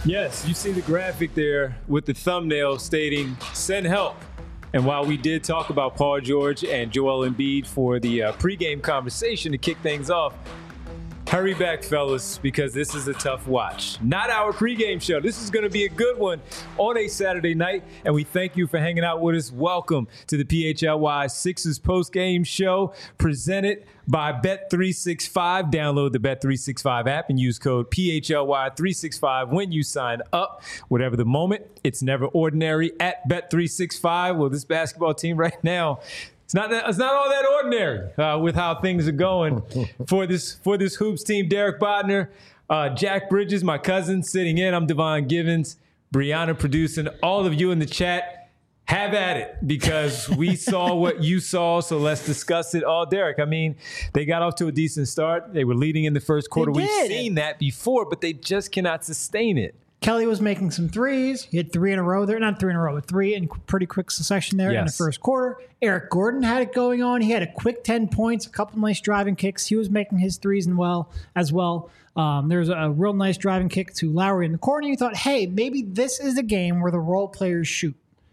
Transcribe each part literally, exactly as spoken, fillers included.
Yes, you see the graphic there with the thumbnail stating send help. And while we did talk about Paul George and Joel Embiid for the uh, pregame conversation to kick things off, hurry back, fellas, because this is a tough watch. Not our pregame show. This is going to be a good one on a Saturday night, and we thank you for hanging out with us. Welcome to the P H L Y Sixers postgame show presented by Bet three sixty-five. Download the Bet three sixty-five app and use code P H L Y three sixty-five when you sign up. Whatever the moment, it's never ordinary at Bet three sixty-five. Well, this basketball team right now, It's not that, it's not all that ordinary uh, with how things are going for this for this hoops team. Derek Bodner, uh, Jack Bridges, my cousin, sitting in. I'm Devon Givens, Brianna producing. All of you in the chat, have at it, because we saw what you saw, so let's discuss it. Oh, Derek, I mean, they got off to a decent start. They were leading in the first quarter. We've seen that before, but they just cannot sustain it. Kelly was making some threes. He had three in a row there. Not three in a row, but three in pretty quick succession there yes. in the first quarter. Eric Gordon had it going on. He had a quick ten points, a couple nice driving kicks. He was making his threes and well as well. Um, there was a real nice driving kick to Lowry in the corner. You thought, hey, maybe this is a game where the role players shoot.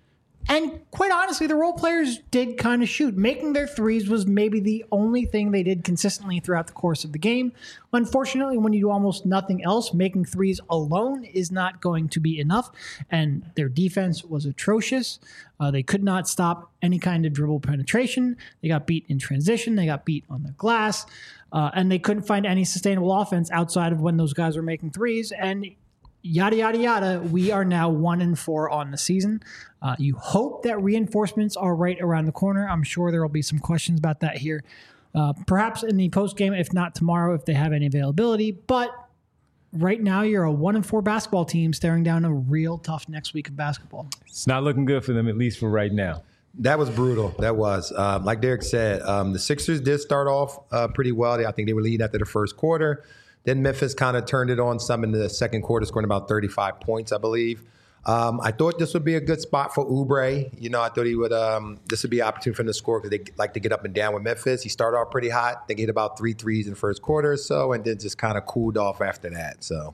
And quite honestly, the role players did kind of shoot. Making their threes was maybe the only thing they did consistently throughout the course of the game. Unfortunately, when you do almost nothing else, making threes alone is not going to be enough. And their defense was atrocious. Uh, they could not stop any kind of dribble penetration. They got beat in transition. They got beat on the glass. Uh, and they couldn't find any sustainable offense outside of when those guys were making threes. And yada, yada, yada, we are now one and four on the season. Uh, you hope that reinforcements are right around the corner. I'm sure there will be some questions about that here. Uh, perhaps in the postgame, if not tomorrow, if they have any availability. But right now, you're a one and four basketball team staring down a real tough next week of basketball. It's not looking good for them, at least for right now. That was brutal. That was. Um, like Derek said, um, the Sixers did start off uh, pretty well. I think they were leading after the first quarter. Then Memphis kind of turned it on some in the second quarter, scoring about thirty-five points, I believe. Um, I thought this would be a good spot for Oubre. You know, I thought he would. Um, this would be an opportunity for him to score because they like to get up and down with Memphis. He started off pretty hot. They hit about three threes in the first quarter or so, and then just kind of cooled off after that. So.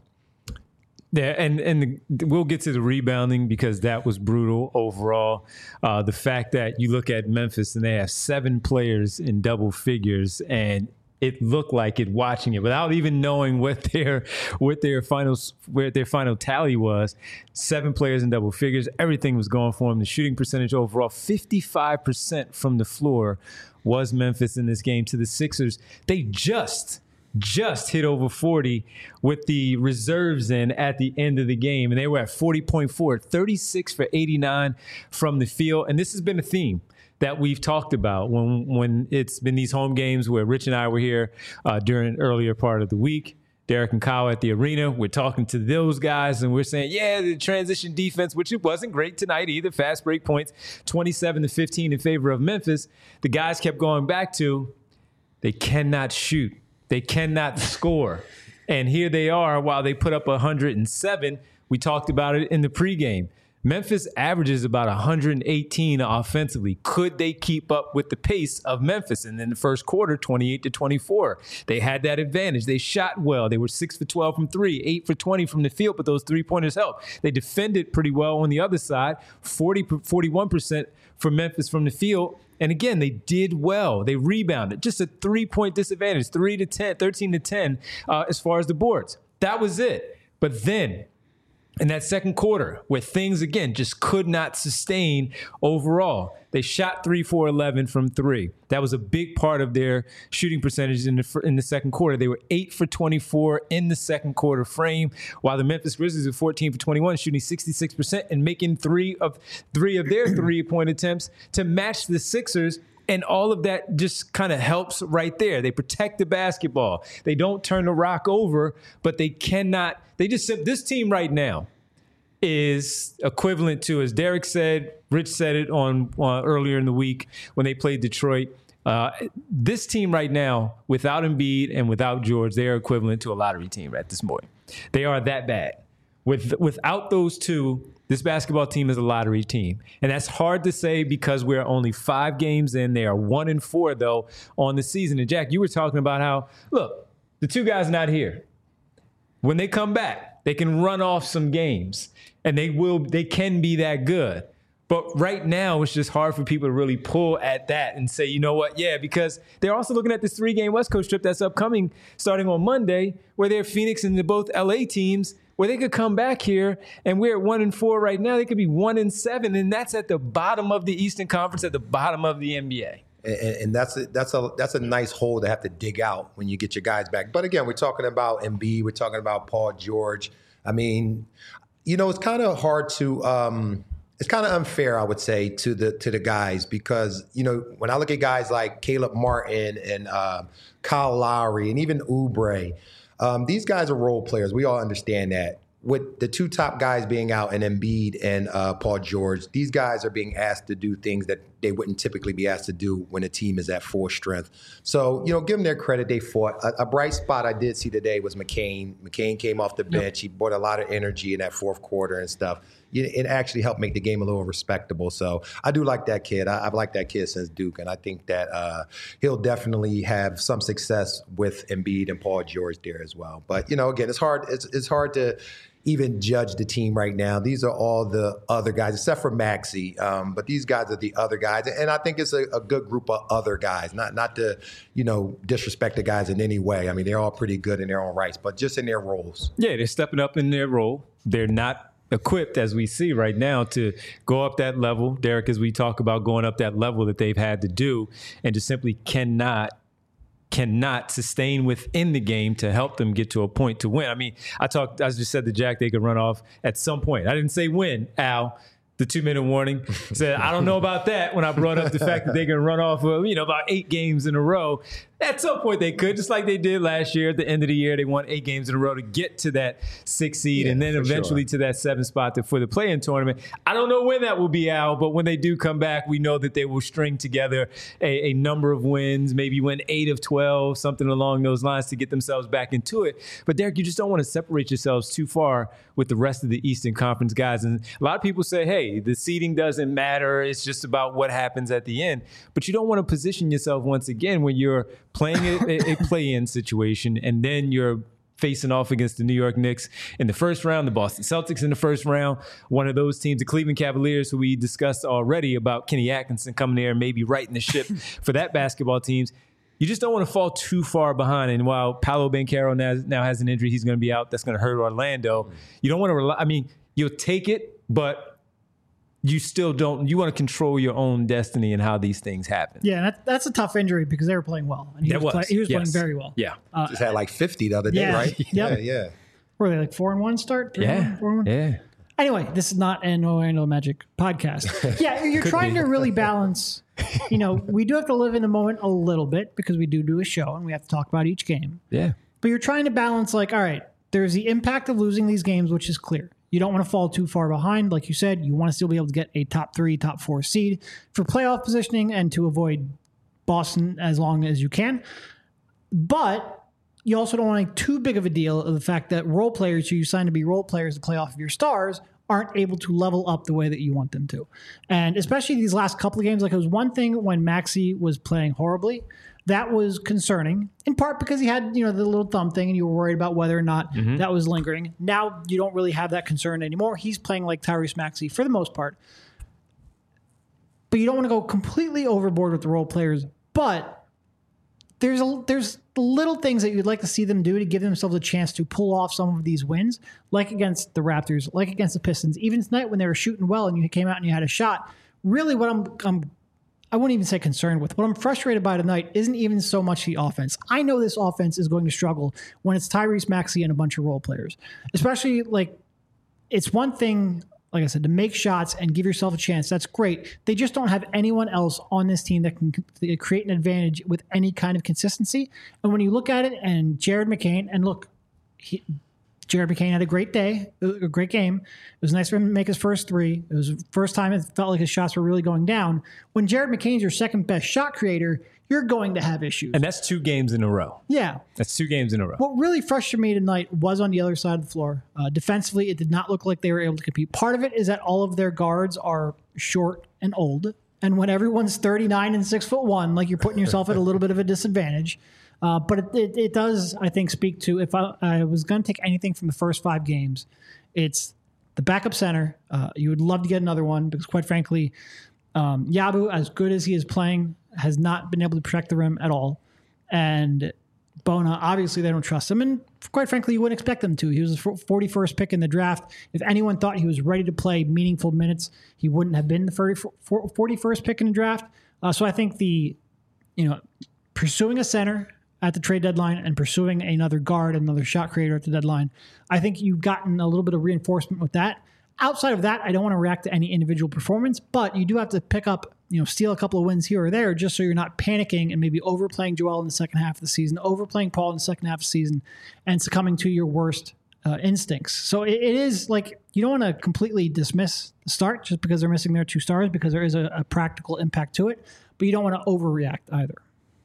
Yeah, and and the, we'll get to the rebounding because that was brutal overall. Uh, the fact that you look at Memphis and they have seven players in double figures, and it looked like it watching it without even knowing what their what their final where their final tally was. Seven players in double figures. Everything was going for them. The shooting percentage overall, fifty-five percent from the floor was Memphis in this game. To the Sixers, they just just hit over forty with the reserves in at the end of the game, and they were at forty point four, thirty-six for eighty-nine from the field. And this has been a theme that we've talked about when when it's been these home games where Rich and I were here uh, during earlier part of the week. Derek and Kyle at the arena, we're talking to those guys and we're saying, yeah, the transition defense, which it wasn't great tonight either. Fast break points, twenty-seven to fifteen in favor of Memphis. The guys kept going back to, they cannot shoot. They cannot score. And here they are while they put up one hundred seven. We talked about it in the pregame. Memphis averages about one hundred eighteen offensively. Could they keep up with the pace of Memphis? And in the first quarter, twenty-eight to twenty-four, they had that advantage. They shot well. They were six for twelve from three, eight for twenty from the field, but those three-pointers helped. They defended pretty well on the other side, forty, forty-one percent for Memphis from the field. And again, they did well. They rebounded. Just a three-point disadvantage, three to ten, thirteen to ten uh, as far as the boards. That was it. But then in that second quarter, where things, again, just could not sustain overall, they shot three for eleven from three. That was a big part of their shooting percentage in the in the second quarter. They were eight for twenty-four in the second quarter frame, while the Memphis Grizzlies were fourteen for twenty-one, shooting sixty-six percent and making three of three of their three-point attempts to match the Sixers. And all of that just kind of helps right there. They protect the basketball. They don't turn the rock over, but they cannot. They just said this team right now is equivalent to, as Derek said, Rich said it on uh, earlier in the week when they played Detroit. Uh, this team right now, without Embiid and without George, they are equivalent to a lottery team at this point. They are that bad. With without those two, this basketball team is a lottery team. And that's hard to say because we're only five games in. They are one and four, though, on the season. And, Jack, you were talking about how, look, the two guys not here. When they come back, They can run off some games, and they will. They can be that good. But right now, it's just hard for people to really pull at that and say, you know what, yeah, because they're also looking at this three-game West Coast trip that's upcoming starting on Monday, where they're Phoenix and they're both L A teams, where they could come back here, and we're at one and four right now. They could be one and seven, and that's at the bottom of the Eastern Conference, at the bottom of the N B A. And, and that's a, that's a that's a nice hole to have to dig out when you get your guys back. But again, we're talking about Embiid, we're talking about Paul George. I mean, you know, it's kind of hard to. Um, It's kind of unfair, I would say, to the to the guys because, you know, when I look at guys like Caleb Martin and uh, Kyle Lowry and even Oubre, um, these guys are role players. We all understand that. With the two top guys being out, and Embiid and uh, Paul George, these guys are being asked to do things that they wouldn't typically be asked to do when a team is at full strength. So, you know, give them their credit. They fought. A, a bright spot I did see today was McCain. McCain came off the bench. Yep. He brought a lot of energy in that fourth quarter and stuff. It actually helped make the game a little respectable. So I do like that kid. I, I've liked that kid since Duke, and I think that uh, he'll definitely have some success with Embiid and Paul George there as well. But, you know, again, it's hard. It's, it's hard to even judge the team right now. These are all the other guys, except for Maxey. Um, but these guys are the other guys. And I think it's a, a good group of other guys, not not to, you know, disrespect the guys in any way. I mean, they're all pretty good in their own rights, but just in their roles. Yeah, they're stepping up in their role. They're not equipped, as we see right now, to go up that level. Derek, as we talk about going up that level that they've had to do, and just simply cannot cannot sustain within the game to help them get to a point to win. I mean, I talked, I just said to Jack, they could run off at some point. I didn't say win, Al. The two-minute warning said, I don't know about that when I brought up the fact that they can run off of, you know, about eight games in a row. At some point they could, just like they did last year. At the end of the year, they won eight games in a row to get to that six seed yeah, and then eventually sure. to that seven spot to, for the play-in tournament. I don't know when that will be, Al, but when they do come back, we know that they will string together a, a number of wins, maybe win eight of twelve, something along those lines to get themselves back into it. But, Derek, you just don't want to separate yourselves too far with the rest of the Eastern Conference guys. And a lot of people say, hey, the seeding doesn't matter. It's just about what happens at the end. But you don't want to position yourself once again when you're playing a, a play-in situation and then you're facing off against the New York Knicks in the first round, the Boston Celtics in the first round, one of those teams, the Cleveland Cavaliers, who we discussed already about Kenny Atkinson coming there and maybe righting the ship for that basketball teams. You just don't want to fall too far behind. And while Paolo Banchero now, now has an injury, he's going to be out. That's going to hurt Orlando. You don't want to rely. I mean, you'll take it, but you still don't. You want to control your own destiny and how these things happen. Yeah, that, that's a tough injury because they were playing well. And he was, was, was. Play, he was yes. playing very well. Yeah. Uh, Just had like fifty the other day, yeah. right? Yep. Yeah, yeah. Were they like four and one start? Three yeah. One, four and one? Yeah. Anyway, this is not an Orlando Magic podcast. Yeah, you're trying be. to really balance. You know, we do have to live in the moment a little bit because we do do a show and we have to talk about each game. Yeah. But you're trying to balance like, all right, there's the impact of losing these games, which is clear. You don't want to fall too far behind. Like you said, you want to still be able to get a top three, top four seed for playoff positioning and to avoid Boston as long as you can. But you also don't want to make too big of a deal of the fact that role players who you sign to be role players to play off of your stars aren't able to level up the way that you want them to. And especially these last couple of games, like it was one thing when Maxey was playing horribly. That was concerning, in part because he had, you know, the little thumb thing and you were worried about whether or not mm-hmm. that was lingering. Now you don't really have that concern anymore. He's playing like Tyrese Maxey for the most part. But you don't want to go completely overboard with the role players. But there's a, there's little things that you'd like to see them do to give themselves a chance to pull off some of these wins, like against the Raptors, like against the Pistons. Even tonight when they were shooting well and you came out and you had a shot, really what I'm I'm I wouldn't even say concerned with. What I'm frustrated by tonight isn't even so much the offense. I know this offense is going to struggle when it's Tyrese Maxey and a bunch of role players. Especially, like, it's one thing, like I said, to make shots and give yourself a chance. That's great. They just don't have anyone else on this team that can create an advantage with any kind of consistency. And when you look at it, and Jared McCain, and look, he, Jared McCain had a great day, a great game. It was nice for him to make his first three. It was the first time it felt like his shots were really going down. When Jared McCain's your second best shot creator, you're going to have issues. And that's two games in a row. Yeah. That's two games in a row. What really frustrated me tonight was on the other side of the floor. Uh, defensively, it did not look like they were able to compete. Part of it is that all of their guards are short and old. And when everyone's thirty-nine and six foot one, like you're putting yourself at a little bit of a disadvantage. Uh, but it, it, it does, I think, speak to, if I, I was going to take anything from the first five games, it's the backup center. Uh, you would love to get another one because, quite frankly, um, Yabu, as good as he is playing, has not been able to protect the rim at all. And Bona, obviously, they don't trust him. And quite frankly, you wouldn't expect them to. He was the forty-first pick in the draft. If anyone thought he was ready to play meaningful minutes, he wouldn't have been the forty-first pick in the draft. Uh, so I think the, you know, pursuing a center at the trade deadline and pursuing another guard, another shot creator at the deadline, I think you've gotten a little bit of reinforcement with that. Outside of that, I don't want to react to any individual performance, but you do have to pick up, you know, steal a couple of wins here or there just so you're not panicking and maybe overplaying Joel in the second half of the season, overplaying Paul in the second half of the season, and succumbing to your worst uh, instincts. So it, it is like, you don't want to completely dismiss the start just because they're missing their two stars, because there is a, a practical impact to it, but you don't want to overreact either.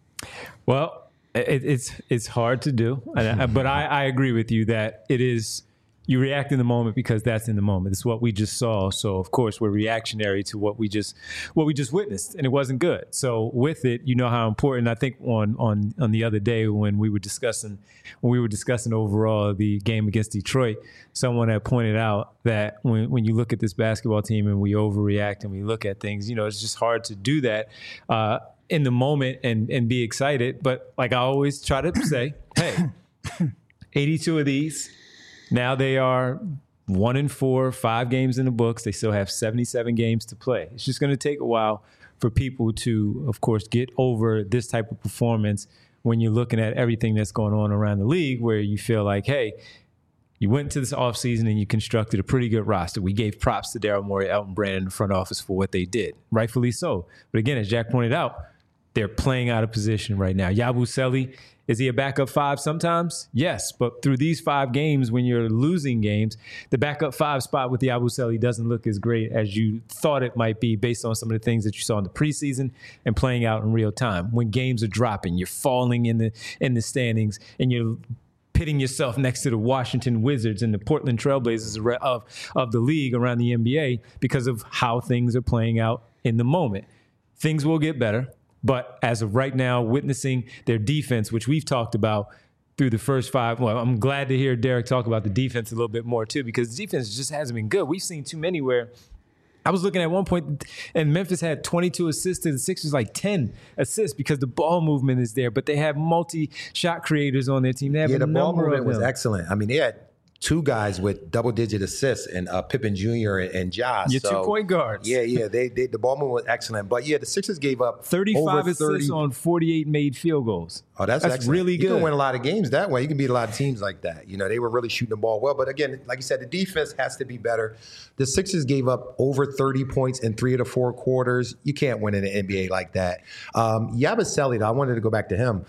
Well, it, it's it's hard to do, and I, but I, I agree with you that it is. You react in the moment because that's in the moment. It's what we just saw. So of course we're reactionary to what we just what we just witnessed, and it wasn't good. So with it, you know how important. I think on on on the other day when we were discussing when we were discussing overall the game against Detroit, someone had pointed out that when when you look at this basketball team and we overreact and we look at things, you know, it's just hard to do that uh, in the moment and and be excited. But like I always try to say, hey, eighty-two of these. Now they are one and four, five games in the books. They still have seventy-seven games to play. It's just going to take a while for people to, of course, get over this type of performance when you're looking at everything that's going on around the league, where you feel like, hey, you went to this offseason and you constructed a pretty good roster. We gave props to Daryl Morey, Elton Brand, in the front office for what they did, rightfully so. But again, as Jack pointed out, they're playing out of position right now. Yabusele, is he a backup five sometimes? Yes, but through these five games, when you're losing games, the backup five spot with Yabusele doesn't look as great as you thought it might be based on some of the things that you saw in the preseason and playing out in real time. When games are dropping, you're falling in the in the standings, and you're pitting yourself next to the Washington Wizards and the Portland Trailblazers of, of the league around the N B A because of how things are playing out in the moment. Things will get better. But as of right now, witnessing their defense, which we've talked about through the first five, well, I'm glad to hear Derek talk about the defense a little bit more too, because the defense just hasn't been good. We've seen too many where I was looking at one point, and Memphis had twenty-two assists to the Sixers, like ten assists, because the ball movement is there. But they have multi-shot creators on their team. They have yeah, a the ball number movement of was them. excellent. I mean, they had two guys with double-digit assists, and uh, Pippen Junior and, and Josh. Your so, two point guards. Yeah, yeah. They, they the ball movement was excellent. But yeah, the Sixers gave up thirty-five over thirty assists on forty-eight made field goals. Oh, that's, that's excellent. really good. You can win a lot of games that way. You can beat a lot of teams like that. You know, they were really shooting the ball well. But again, like you said, the defense has to be better. The Sixers gave up over thirty points in three of the four quarters. You can't win in the N B A like that. Um, Yabusele, I wanted to go back to him.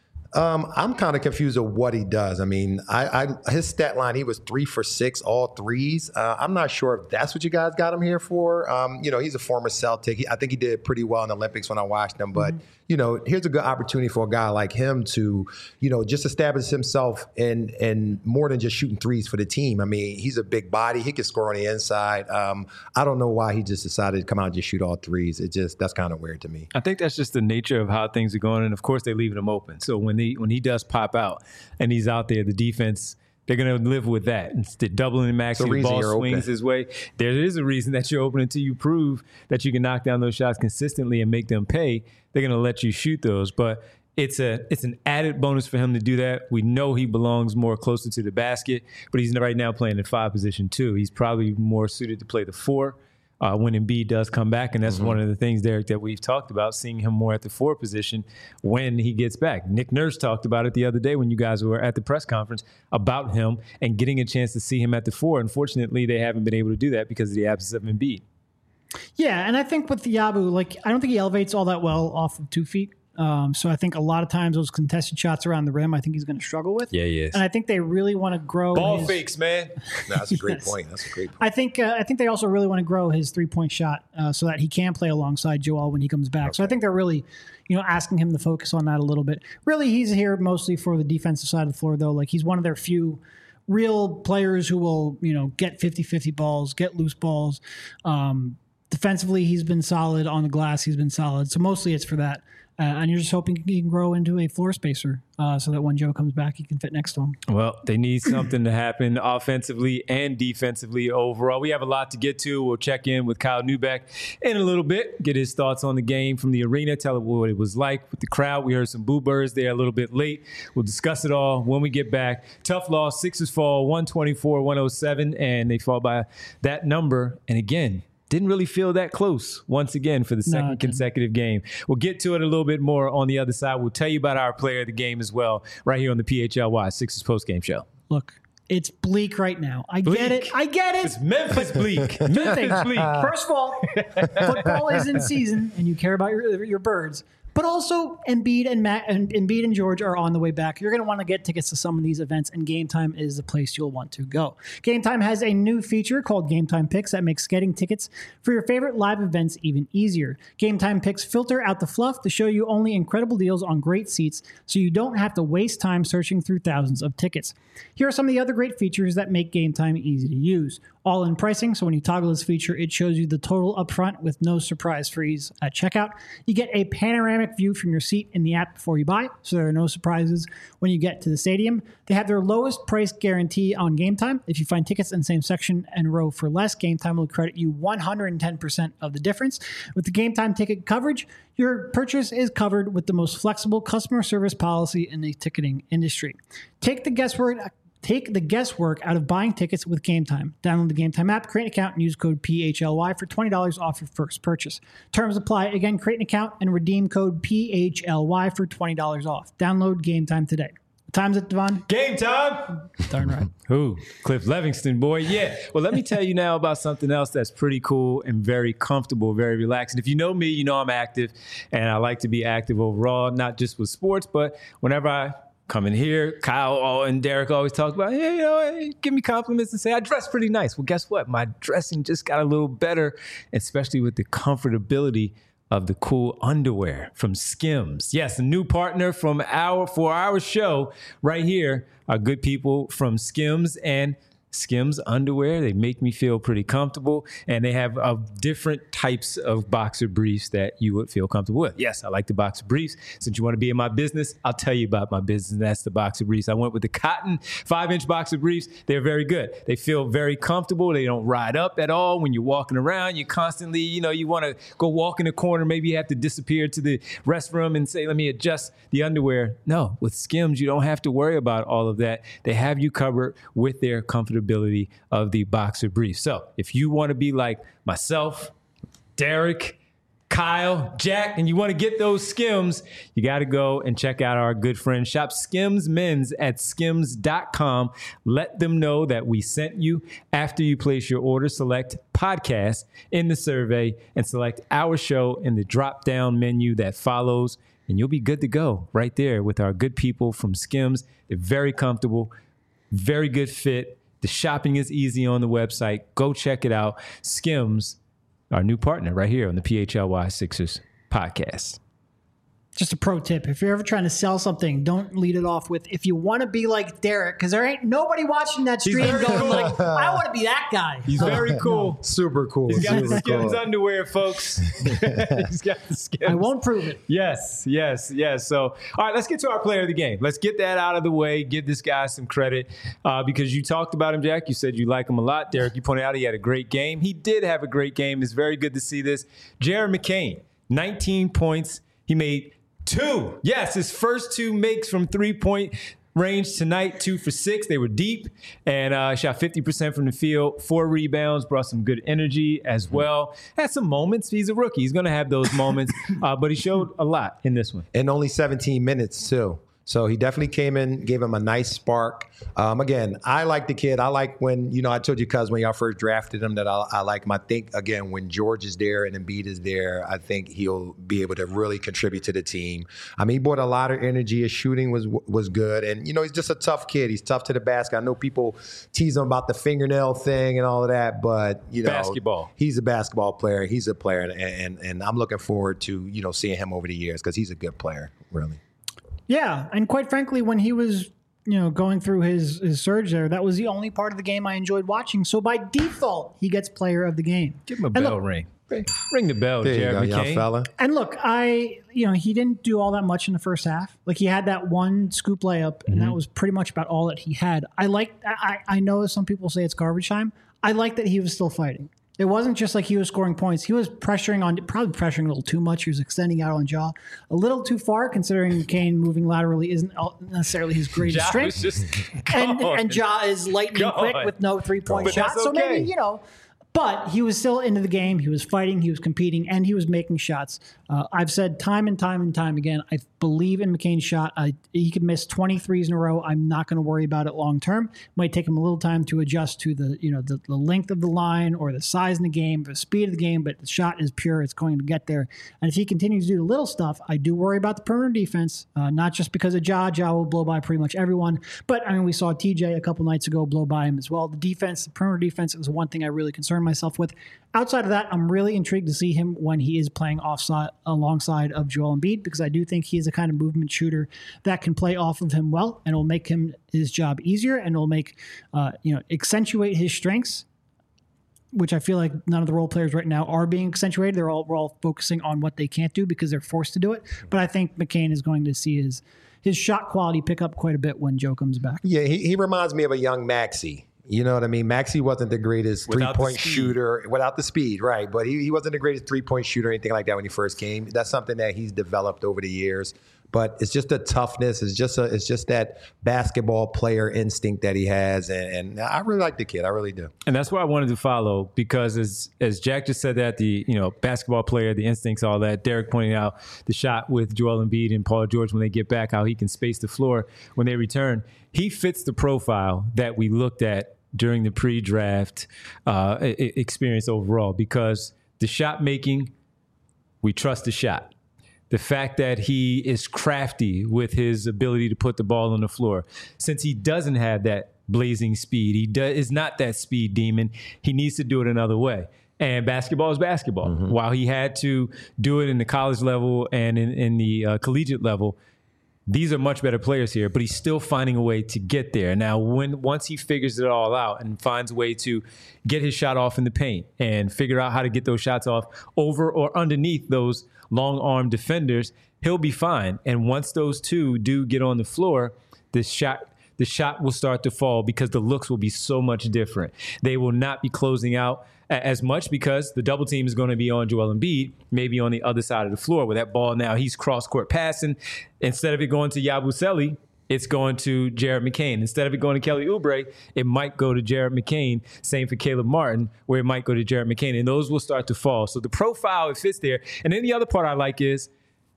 Um, I'm kind of confused of what he does. I mean, I, I his stat line, he was three for six, all threes. Uh, I'm not sure if that's what you guys got him here for. Um, you know, he's a former Celtic. He, I think he did pretty well in the Olympics when I watched him. But, mm-hmm. you know, here's a good opportunity for a guy like him to, you know, just establish himself in, in more than just shooting threes for the team. I mean, he's a big body. He can score on the inside. Um, I don't know why he just decided to come out and just shoot all threes. It just, that's kind of weird to me. I think that's just the nature of how things are going. And, of course, they're leaving him open. So when they, when he does pop out and he's out there, the defense, they're going to live with that. Instead of doubling and maxing, the ball swings open his way. There is a reason that you're open until you prove that you can knock down those shots consistently and make them pay. They're going to let you shoot those. But it's a it's an added bonus for him to do that. We know he belongs more closer to the basket, but he's right now playing the five position too. He's probably more suited to play the four. Uh, when Embiid does come back, and that's mm-hmm. one of the things, Derek, that we've talked about, seeing him more at the four position when he gets back. Nick Nurse talked about it the other day when you guys were at the press conference about him and getting a chance to see him at the four. Unfortunately, they haven't been able to do that because of the absence of Embiid. Yeah, and I think with Yabu, like, I don't think he elevates all that well off of two feet. Um, so I think a lot of times those contested shots around the rim, I think he's going to struggle with. Yeah, he is. And I think they really want to grow ball his, fakes, man. No, that's a great yes. point. That's a great point. I think uh, I think they also really want to grow his three point shot uh, so that he can play alongside Joel when he comes back. Okay. So I think they're really, you know, asking him to focus on that a little bit. Really, he's here mostly for the defensive side of the floor, though. Like, he's one of their few real players who will, you know, get fifty-fifty balls, get loose balls. Um, Defensively, he's been solid. On the glass, he's been solid. So mostly it's for that. Uh, and you're just hoping he can grow into a floor spacer uh, so that when Joe comes back, he can fit next to him. Well, they need something to happen offensively and defensively overall. We have a lot to get to. We'll check in with Kyle Neubeck in a little bit, get his thoughts on the game from the arena, tell him what it was like with the crowd. We heard some boo birds there a little bit late. We'll discuss it all when we get back. Tough loss. Sixers fall one twenty-four one oh seven, and they fall by that number. And again, didn't really feel that close once again for the second no, consecutive game. We'll get to it a little bit more on the other side. We'll tell you about our player of the game as well right here on the P H L Y Sixers postgame show. Look, it's bleak right now. I bleak. get it. I get it. It's Memphis bleak. Memphis bleak. First of all, football is in season and you care about your, your birds. But also, Embiid and Matt and Embiid and George are on the way back. You're going to want to get tickets to some of these events, and Game Time is the place you'll want to go. Game Time has a new feature called Game Time Picks that makes getting tickets for your favorite live events even easier. Game Time Picks filter out the fluff to show you only incredible deals on great seats, so you don't have to waste time searching through thousands of tickets. Here are some of the other great features that make Game Time easy to use. All-in pricing, so when you toggle this feature, it shows you the total upfront with no surprise fees at checkout. You get a panoramic view from your seat in the app before you buy, so there are no surprises when you get to the stadium. They have their lowest price guarantee on Game Time. If you find tickets in the same section and row for less, Game Time will credit you one hundred ten percent of the difference. With the Game Time ticket coverage, your purchase is covered with the most flexible customer service policy in the ticketing industry. Take the guesswork Take the guesswork out of buying tickets with Game Time. Download the Game Time app, create an account, and use code P H L Y for twenty dollars off your first purchase. Terms apply. Again, create an account and redeem code P H L Y for twenty dollars off. Download Game Time today. What time's it, Devon? Game time! Darn right. Who? Cliff Levingston, boy. Yeah. Well, let me tell you now about something else that's pretty cool and very comfortable, very relaxing. If you know me, you know I'm active, and I like to be active overall, not just with sports, but whenever I come in here, Kyle and Derek always talk about, hey, you know, hey, give me compliments and say, I dress pretty nice. Well, guess what? My dressing just got a little better, especially with the comfortability of the cool underwear from Skims. Yes, a new partner from our for our show right here. Our good people from Skims and Skims underwear. They make me feel pretty comfortable, and they have uh, different types of boxer briefs that you would feel comfortable with. Yes, I like the boxer briefs. Since you want to be in my business, I'll tell you about my business, and that's the boxer briefs. I went with the cotton five-inch boxer briefs. They're very good. They feel very comfortable. They don't ride up at all when you're walking around. You constantly, you know, you want to go walk in the corner. Maybe you have to disappear to the restroom and say, let me adjust the underwear. No, with Skims, you don't have to worry about all of that. They have you covered with their comfortability of the boxer brief. So if you want to be like myself, Derek, Kyle, Jack, and you want to get those Skims, you got to go and check out our good friend Shop Skims Men's at skims dot com. Let them know that we sent you. After you place your order, select podcast in the survey and select our show in the drop-down menu that follows, and you'll be good to go right there with our good people from Skims. They're very comfortable, very good fit. The shopping is easy on the website. Go check it out. Skims, our new partner right here on the P H L Y Sixers podcast. Just a pro tip. If you're ever trying to sell something, don't lead it off with, if you want to be like Derek, because there ain't nobody watching that stream going cool. like, I want to be that guy. He's very cool. Super cool. He's got Super the Skims cool. underwear, folks. He's got the Skims. I won't prove it. Yes, yes, yes. So, all right, let's get to our player of the game. Let's get that out of the way. Give this guy some credit uh, because you talked about him, Jack. You said you like him a lot. Derek, you pointed out he had a great game. He did have a great game. It's very good to see this. Jared McCain, nineteen points. He made two. Yes, his first two makes from three-point range tonight, two for six. They were deep and uh, shot fifty percent from the field, four rebounds, brought some good energy as well. Had some moments. He's a rookie. He's going to have those moments, uh, but he showed a lot in this one. And only seventeen minutes, too. So he definitely came in, gave him a nice spark. Um, again, I like the kid. I like when, you know, I told you, cuz when y'all first drafted him that I, I like him. I think, again, when George is there and Embiid is there, I think he'll be able to really contribute to the team. I mean, he brought a lot of energy. His shooting was was good. And, you know, he's just a tough kid. He's tough to the basket. I know people tease him about the fingernail thing and all of that, but, you know. Basketball. He's a basketball player. He's a player. And, and, and I'm looking forward to, you know, seeing him over the years because he's a good player, really. Yeah, and quite frankly, when he was, you know, going through his, his surge there, that was the only part of the game I enjoyed watching. So by default, he gets player of the game. Give him a and bell look, ring. Ring the bell, There Jared you go, McCain. young fella. And look, I, you know, he didn't do all that much in the first half. Like he had that one scoop layup, and Mm-hmm. that was pretty much about all that he had. I like, I, I know some people say it's garbage time. I like that he was still fighting. It wasn't just like he was scoring points. He was pressuring on, probably pressuring a little too much. He was extending out on Ja a little too far, considering McCain moving laterally isn't necessarily his greatest Ja strength. was just and, gone. and Ja is lightning Gone. quick with no three point But shot. that's So okay. maybe, you know, but he was still into the game. He was fighting, he was competing, and he was making shots. Uh, I've said time and time and time again, I believe in McCain's shot. I, he could miss twenty threes in a row. I'm not going to worry about it long term. Might take him a little time to adjust to the, you know, the, the length of the line or the size in the game, the speed of the game, but the shot is pure. It's going to get there. And if he continues to do the little stuff, I do worry about the perimeter defense, uh, not just because of Ja. Ja will blow by pretty much everyone. But, I mean, we saw T J a couple nights ago blow by him as well. The defense, the perimeter defense is one thing I really concern myself with. Outside of that, I'm really intrigued to see him when he is playing offside alongside of Joel Embiid, because I do think he's a kind of movement shooter that can play off of him well, and will make him his job easier, and will make uh, you know accentuate his strengths, which I feel like none of the role players right now are being accentuated. They're all we're all focusing on what they can't do because they're forced to do it. But I think McCain is going to see his his shot quality pick up quite a bit when Joe comes back. Yeah, he, he reminds me of a young Maxey. You know what I mean? Maxey wasn't the greatest Without the three-point speed. shooter without the speed, right? But he, he wasn't the greatest three-point shooter or anything like that when he first came. That's something that he's developed over the years. But it's just a toughness. It's just a, it's just that basketball player instinct that he has, and, and I really like the kid. I really do. And that's why I wanted to follow, because as as Jack just said that, the you know basketball player, the instincts, all that. Derek pointing out the shot with Joel Embiid and Paul George when they get back, how he can space the floor when they return. He fits the profile that we looked at during the pre-draft uh, experience overall, because the shot making, we trust the shot. The fact that he is crafty with his ability to put the ball on the floor. Since he doesn't have that blazing speed, he does, is not that speed demon, he needs to do it another way. And basketball is basketball. Mm-hmm. While he had to do it in the college level and in, in the uh, collegiate level, these are much better players here, but he's still finding a way to get there. Now, when once he figures it all out and finds a way to get his shot off in the paint and figure out how to get those shots off over or underneath those long-arm defenders, he'll be fine. And once those two do get on the floor, the shot the shot will start to fall because the looks will be so much different. They will not be closing out as much because the double team is going to be on Joel Embiid, maybe on the other side of the floor where that ball now he's cross-court passing. Instead of it going to Yabusele, it's going to Jared McCain. Instead of it going to Kelly Oubre, it might go to Jared McCain. Same for Caleb Martin, where it might go to Jared McCain. And those will start to fall. So the profile, it fits there. And then the other part I like is,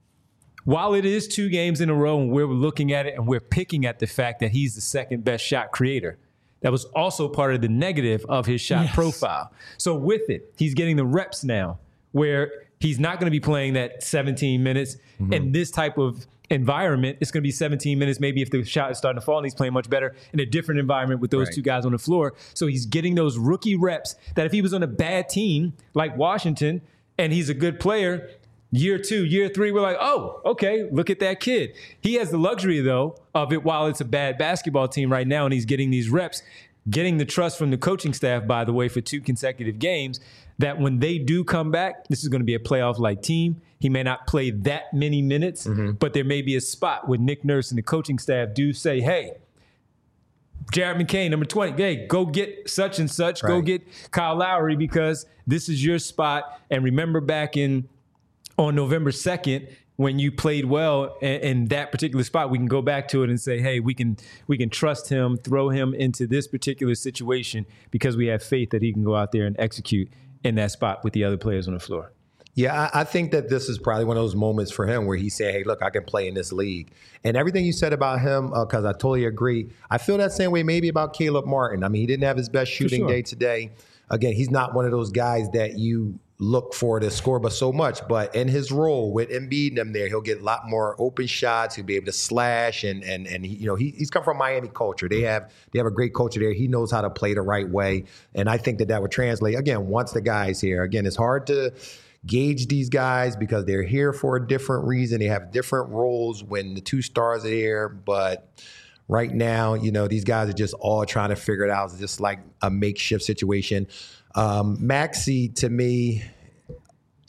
while it is two games in a row and we're looking at it and we're picking at the fact that he's the second best shot creator, that was also part of the negative of his shot Yes. profile. So with it, he's getting the reps now where he's not going to be playing that seventeen minutes mm-hmm. in this type of environment. It's going to be seventeen minutes, maybe if the shot is starting to fall and he's playing much better in a different environment with those Right. two guys on the floor. So he's getting those rookie reps that if he was on a bad team like Washington and he's a good player, year two, year three, we're like, oh, okay, look at that kid. He has the luxury, though, of it while it's a bad basketball team right now and he's getting these reps, getting the trust from the coaching staff, by the way, for two consecutive games, that when they do come back, this is going to be a playoff-like team. He may not play that many minutes, mm-hmm. but there may be a spot where Nick Nurse and the coaching staff do say, hey, Jared McCain, number twenty, hey, go get such and such, right. go get Kyle Lowry because this is your spot. And remember back in on November second, when you played well in, in that particular spot, we can go back to it and say, hey, we can we can trust him, throw him into this particular situation because we have faith that he can go out there and execute in that spot with the other players on the floor. Yeah, I, I think that this is probably one of those moments for him where he said, hey, look, I can play in this league. And everything you said about him, because uh, I totally agree. I feel that same way maybe about Caleb Martin. I mean, he didn't have his best shooting sure. day today. Again, he's not one of those guys that you look for to score but so much. But in his role with Embiid and them there, he'll get a lot more open shots. He'll be able to slash. And, and, and he, you know, he, he's come from Miami culture. They have they have a great culture there. He knows how to play the right way. And I think that that would translate, again, once the guy's here. Again, it's hard to gauge these guys because they're here for a different reason. They have different roles when the two stars are here. But right now, you know, these guys are just all trying to figure it out. It's just like a makeshift situation. Um, Maxey, to me,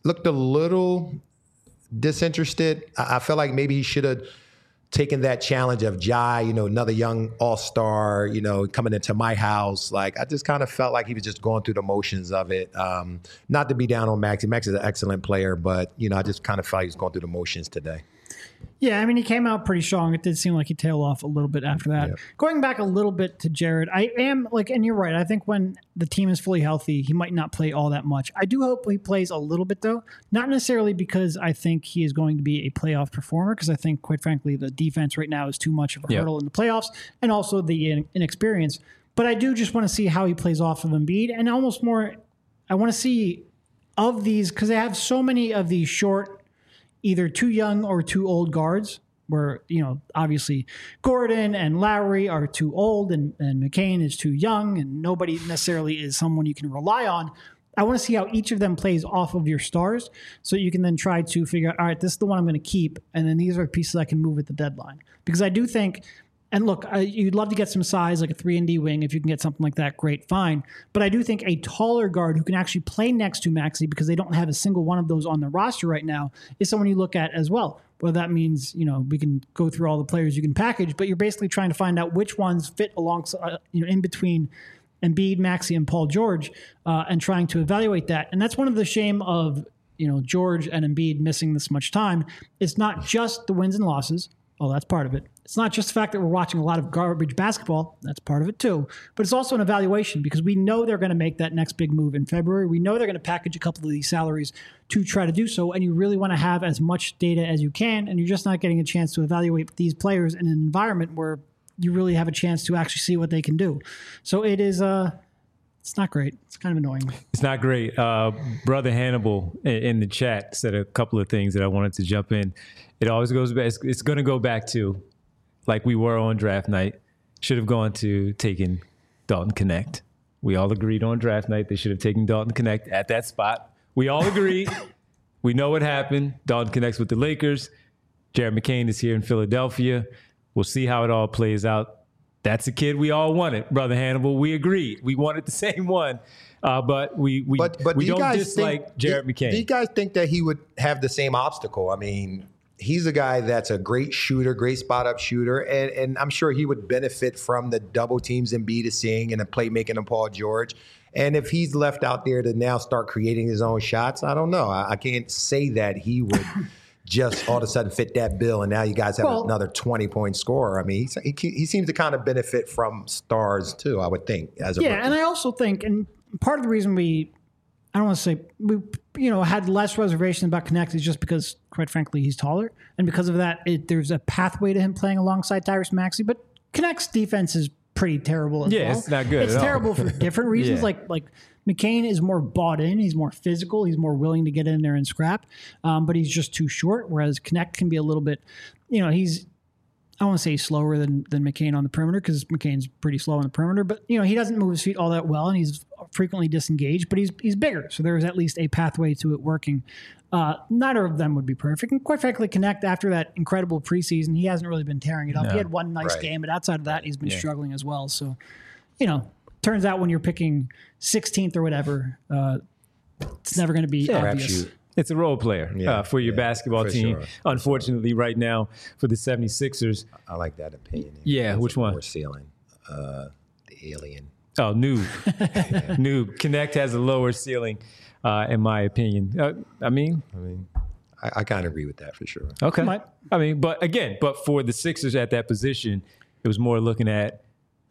looked a little disinterested. I, I felt like maybe he should have taken that challenge of Jai, you know, another young all-star, you know, coming into my house. Like, I just kind of felt like he was just going through the motions of it. Um, not to be down on Maxey. Max is an excellent player, but, you know, I just kind of felt he was going through the motions today. Yeah, I mean, he came out pretty strong. It did seem like he tailed off a little bit after that. Yep. Going back a little bit to Jared, I am like, and you're right. I think when the team is fully healthy, he might not play all that much. I do hope he plays a little bit, though. Not necessarily because I think he is going to be a playoff performer, because I think, quite frankly, the defense right now is too much of a yep. hurdle in the playoffs, and also the inexperience. But I do just want to see how he plays off of Embiid, and almost more, I want to see of these, because they have so many of these short, either too young or too old guards, where, you know, obviously Gordon and Lowry are too old and, and McCain is too young, and nobody necessarily is someone you can rely on. I want to see how each of them plays off of your stars, so you can then try to figure out, all right, this is the one I'm going to keep, and then these are pieces I can move at the deadline. Because I do think, and look, I, you'd love to get some size, like a three and D wing. If you can get something like that, great, fine. But I do think a taller guard who can actually play next to Maxey, because they don't have a single one of those on the roster right now, is someone you look at as well. Well, that means, you know, we can go through all the players you can package, but you're basically trying to find out which ones fit alongside, uh, you know, in between Embiid, Maxey, and Paul George, uh, and trying to evaluate that. And that's one of the shame of, you know, George and Embiid missing this much time. It's not just the wins and losses. Oh, that's part of it. It's not just the fact that we're watching a lot of garbage basketball. That's part of it too. But it's also an evaluation, because we know they're going to make that next big move in February. We know they're going to package a couple of these salaries to try to do so. And you really want to have as much data as you can. And you're just not getting a chance to evaluate these players in an environment where you really have a chance to actually see what they can do. So it is, uh, it's not great. It's kind of annoying. It's not great. Uh, Brother Hannibal in the chat said a couple of things that I wanted to jump in. It always goes back. It's, it's going to go back to, like we were on draft night, should have gone to taking Dalton Knecht. We all agreed on draft night they should have taken Dalton Knecht at that spot. We all agreed. We know what happened. Dalton Knecht's with the Lakers. Jared McCain is here in Philadelphia. We'll see how it all plays out. That's a kid we all wanted, Brother Hannibal. We agreed. We wanted the same one. Uh, but we we, but, but we do don't dislike think, Jared do, McCain. Do you guys think that he would have the same obstacle? I mean, he's a guy that's a great shooter, great spot-up shooter, and, and I'm sure he would benefit from the double teams Embiid is seeing and the playmaking of Paul George. And if he's left out there to now start creating his own shots, I don't know. I, I can't say that he would just all of a sudden fit that bill, and now you guys have well, another twenty-point scorer. I mean, he, he, he seems to kind of benefit from stars too, I would think. As a yeah, rookie. And I also think, and part of the reason we, I don't want to say, we you know had less reservations about Knecht is just because, quite frankly, he's taller. And because of that, it, there's a pathway to him playing alongside Tyrese Maxey. But Knecht's defense is pretty terrible as yeah, well. Yeah, it's not good It's at terrible all. for different reasons. yeah. Like like McCain is more bought in. He's more physical. He's more willing to get in there and scrap. Um, but he's just too short, whereas Knecht can be a little bit, you know, he's, I don't want to say slower than than McCain on the perimeter, because McCain's pretty slow on the perimeter, but you know he doesn't move his feet all that well, and he's frequently disengaged. But he's he's bigger, so there is at least a pathway to it working. Uh, neither of them would be perfect, and quite frankly, Knecht after that incredible preseason, he hasn't really been tearing it up. No. He had one nice right. game, but outside of that, he's been yeah. struggling as well. So, you know, turns out when you're picking sixteenth or whatever, uh, it's never going to be yeah, obvious. It's a role player yeah, uh, for your yeah, basketball for team. Sure. Unfortunately, right now for the seventy-sixers. I like that opinion. Yeah, That's which one? More ceiling. Uh, the alien. Oh, noob. Noob. Knecht has a lower ceiling, uh, in my opinion. Uh, I mean, I mean, I, I kind of agree with that for sure. Okay. Might. I mean, but again, but for the Sixers at that position, it was more looking at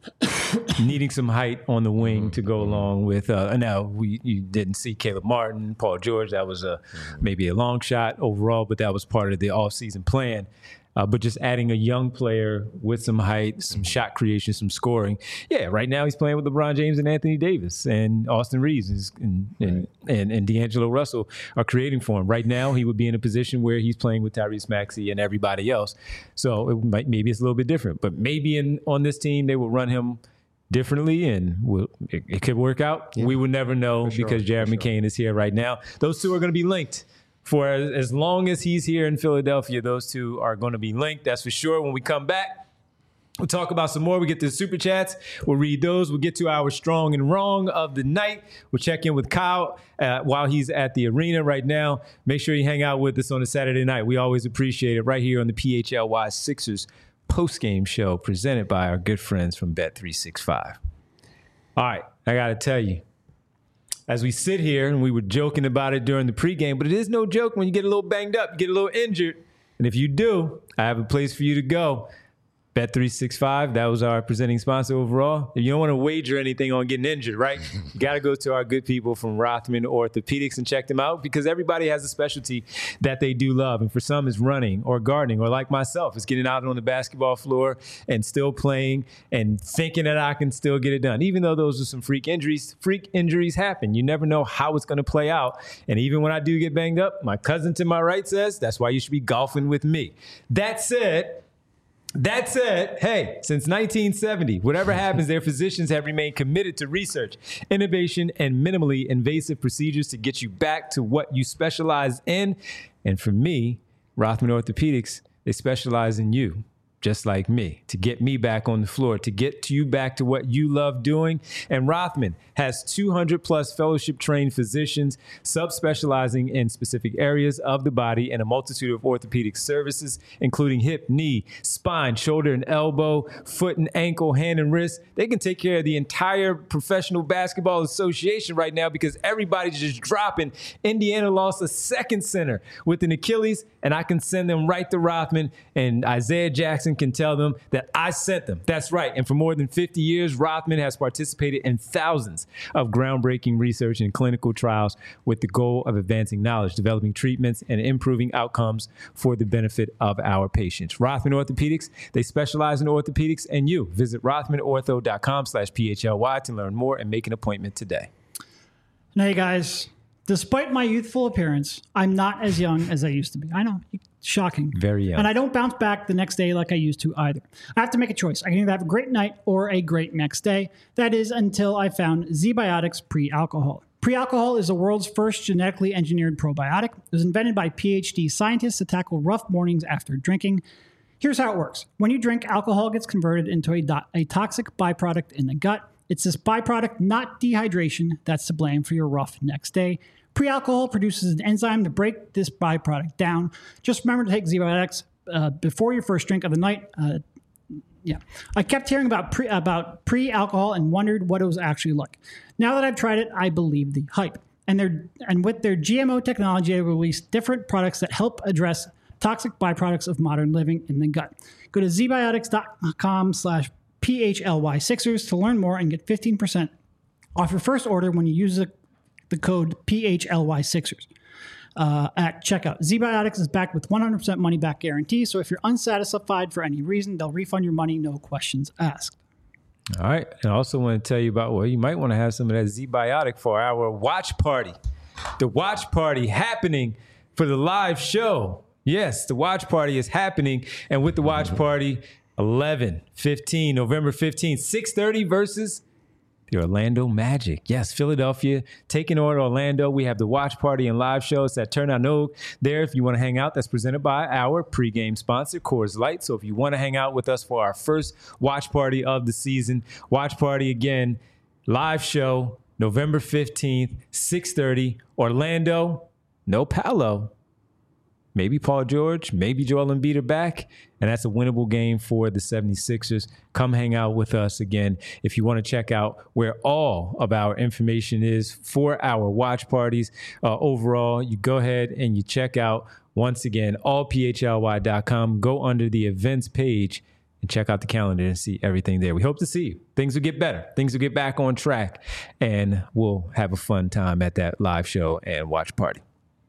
needing some height on the wing mm-hmm. to go along with. Uh, now we you didn't see Caleb Martin, Paul George. That was a mm-hmm. maybe a long shot overall, but that was part of the offseason plan. Uh, but just adding a young player with some height, some shot creation, some scoring. Yeah, right now he's playing with LeBron James and Anthony Davis and Austin Reeves and and, right. and, and D'Angelo Russell are creating for him. Right now he would be in a position where he's playing with Tyrese Maxey and everybody else. So it might, maybe it's a little bit different. But maybe in on this team they will run him differently, and we'll, it, it could work out. Yeah. We will never know sure, because Jared McCain sure. is here right now. Those two are going to be linked. For as, as long as he's here in Philadelphia, those two are going to be linked. That's for sure. When we come back, We'll talk about some more. We get to the super chats. We'll read those. We'll get to our strong and wrong of the night. We'll check in with Kyle uh, while he's at the arena right now. Make sure you hang out with us on a Saturday night. We always appreciate it right here on the P H L Y Sixers postgame show presented by our good friends from Bet three sixty-five. All right, I got to tell you, as we sit here, and we were joking about it during the pregame, but it is no joke when you get a little banged up, you get a little injured. And if you do, I have a place for you to go. Bet three sixty-five, that was our presenting sponsor overall. If you don't want to wager anything on getting injured, right? You got to go to our good people from Rothman Orthopedics and check them out, because everybody has a specialty that they do love. And for some, it's running or gardening, or like myself, it's getting out on the basketball floor and still playing and thinking that I can still get it done. Even though those are some freak injuries, freak injuries happen. You never know how it's going to play out. And even when I do get banged up, my cousin to my right says, that's why you should be golfing with me. That said, That said, hey, since nineteen seventy, whatever happens, their physicians have remained committed to research, innovation, and minimally invasive procedures to get you back to what you specialize in. And for me, Rothman Orthopedics, they specialize in you, just like me, to get me back on the floor, to get you back to what you love doing. And Rothman has two hundred plus fellowship-trained physicians subspecializing in specific areas of the body and a multitude of orthopedic services, including hip, knee, spine, shoulder and elbow, foot and ankle, hand and wrist. They can take care of the entire Professional Basketball Association right now, because everybody's just dropping. Indiana lost a second center with an Achilles, and I can send them right to Rothman, and Isaiah Jackson can tell them that I sent them. That's right. And for more than fifty years, Rothman has participated in thousands of groundbreaking research and clinical trials with the goal of advancing knowledge, developing treatments, and improving outcomes for the benefit of our patients. Rothman Orthopedics, they specialize in orthopedics and you. Visit rothmanortho.com slash PHLY to learn more and make an appointment today. Now, you guys, despite my youthful appearance, I'm not as young as I used to be. I know. Shocking. Very young. And I don't bounce back the next day like I used to either. I have to make a choice. I can either have a great night or a great next day. That is until I found ZBiotics Pre-Alcohol. Pre-Alcohol is the world's first genetically engineered probiotic. It was invented by PhD scientists to tackle rough mornings after drinking. Here's how it works. When you drink, alcohol gets converted into a, do- a toxic byproduct in the gut. It's this byproduct, not dehydration, that's to blame for your rough next day. Pre-alcohol produces an enzyme to break this byproduct down. Just remember to take ZBiotics uh, before your first drink of the night. Uh, yeah, I kept hearing about pre about pre-alcohol and wondered what it was actually like. Now that I've tried it, I believe the hype. And they're and with their G M O technology, they release different products that help address toxic byproducts of modern living in the gut. Go to zbiotics.com slash PHLY Sixers to learn more and get fifteen percent off your first order when you use the the code P H L Y Sixers uh, at checkout. ZBiotics is backed with one hundred percent money back guarantee, so if you're unsatisfied for any reason, they'll refund your money, no questions asked. All right. And I also want to tell you about, well, you might want to have some of that ZBiotic for our watch party. The watch party happening for the live show. Yes, the watch party is happening. And with the watch party, eleven fifteen, November fifteenth, six thirty versus the Orlando Magic. Yes, Philadelphia taking on Orlando. We have the watch party and live shows that turn out no there if you want to hang out. That's presented by our pregame sponsor, Coors Light. So if you want to hang out with us for our first watch party of the season, watch party again, live show, November fifteenth, six thirty, Orlando, no Paolo. Maybe Paul George, maybe Joel Embiid are back, and that's a winnable game for the seventy-sixers. Come hang out with us again. If you want to check out where all of our information is for our watch parties uh, overall, you go ahead and you check out, once again, all P H L Y dot com. Go under the events page and check out the calendar and see everything there. We hope to see you. Things will get better. Things will get back on track, and we'll have a fun time at that live show and watch party.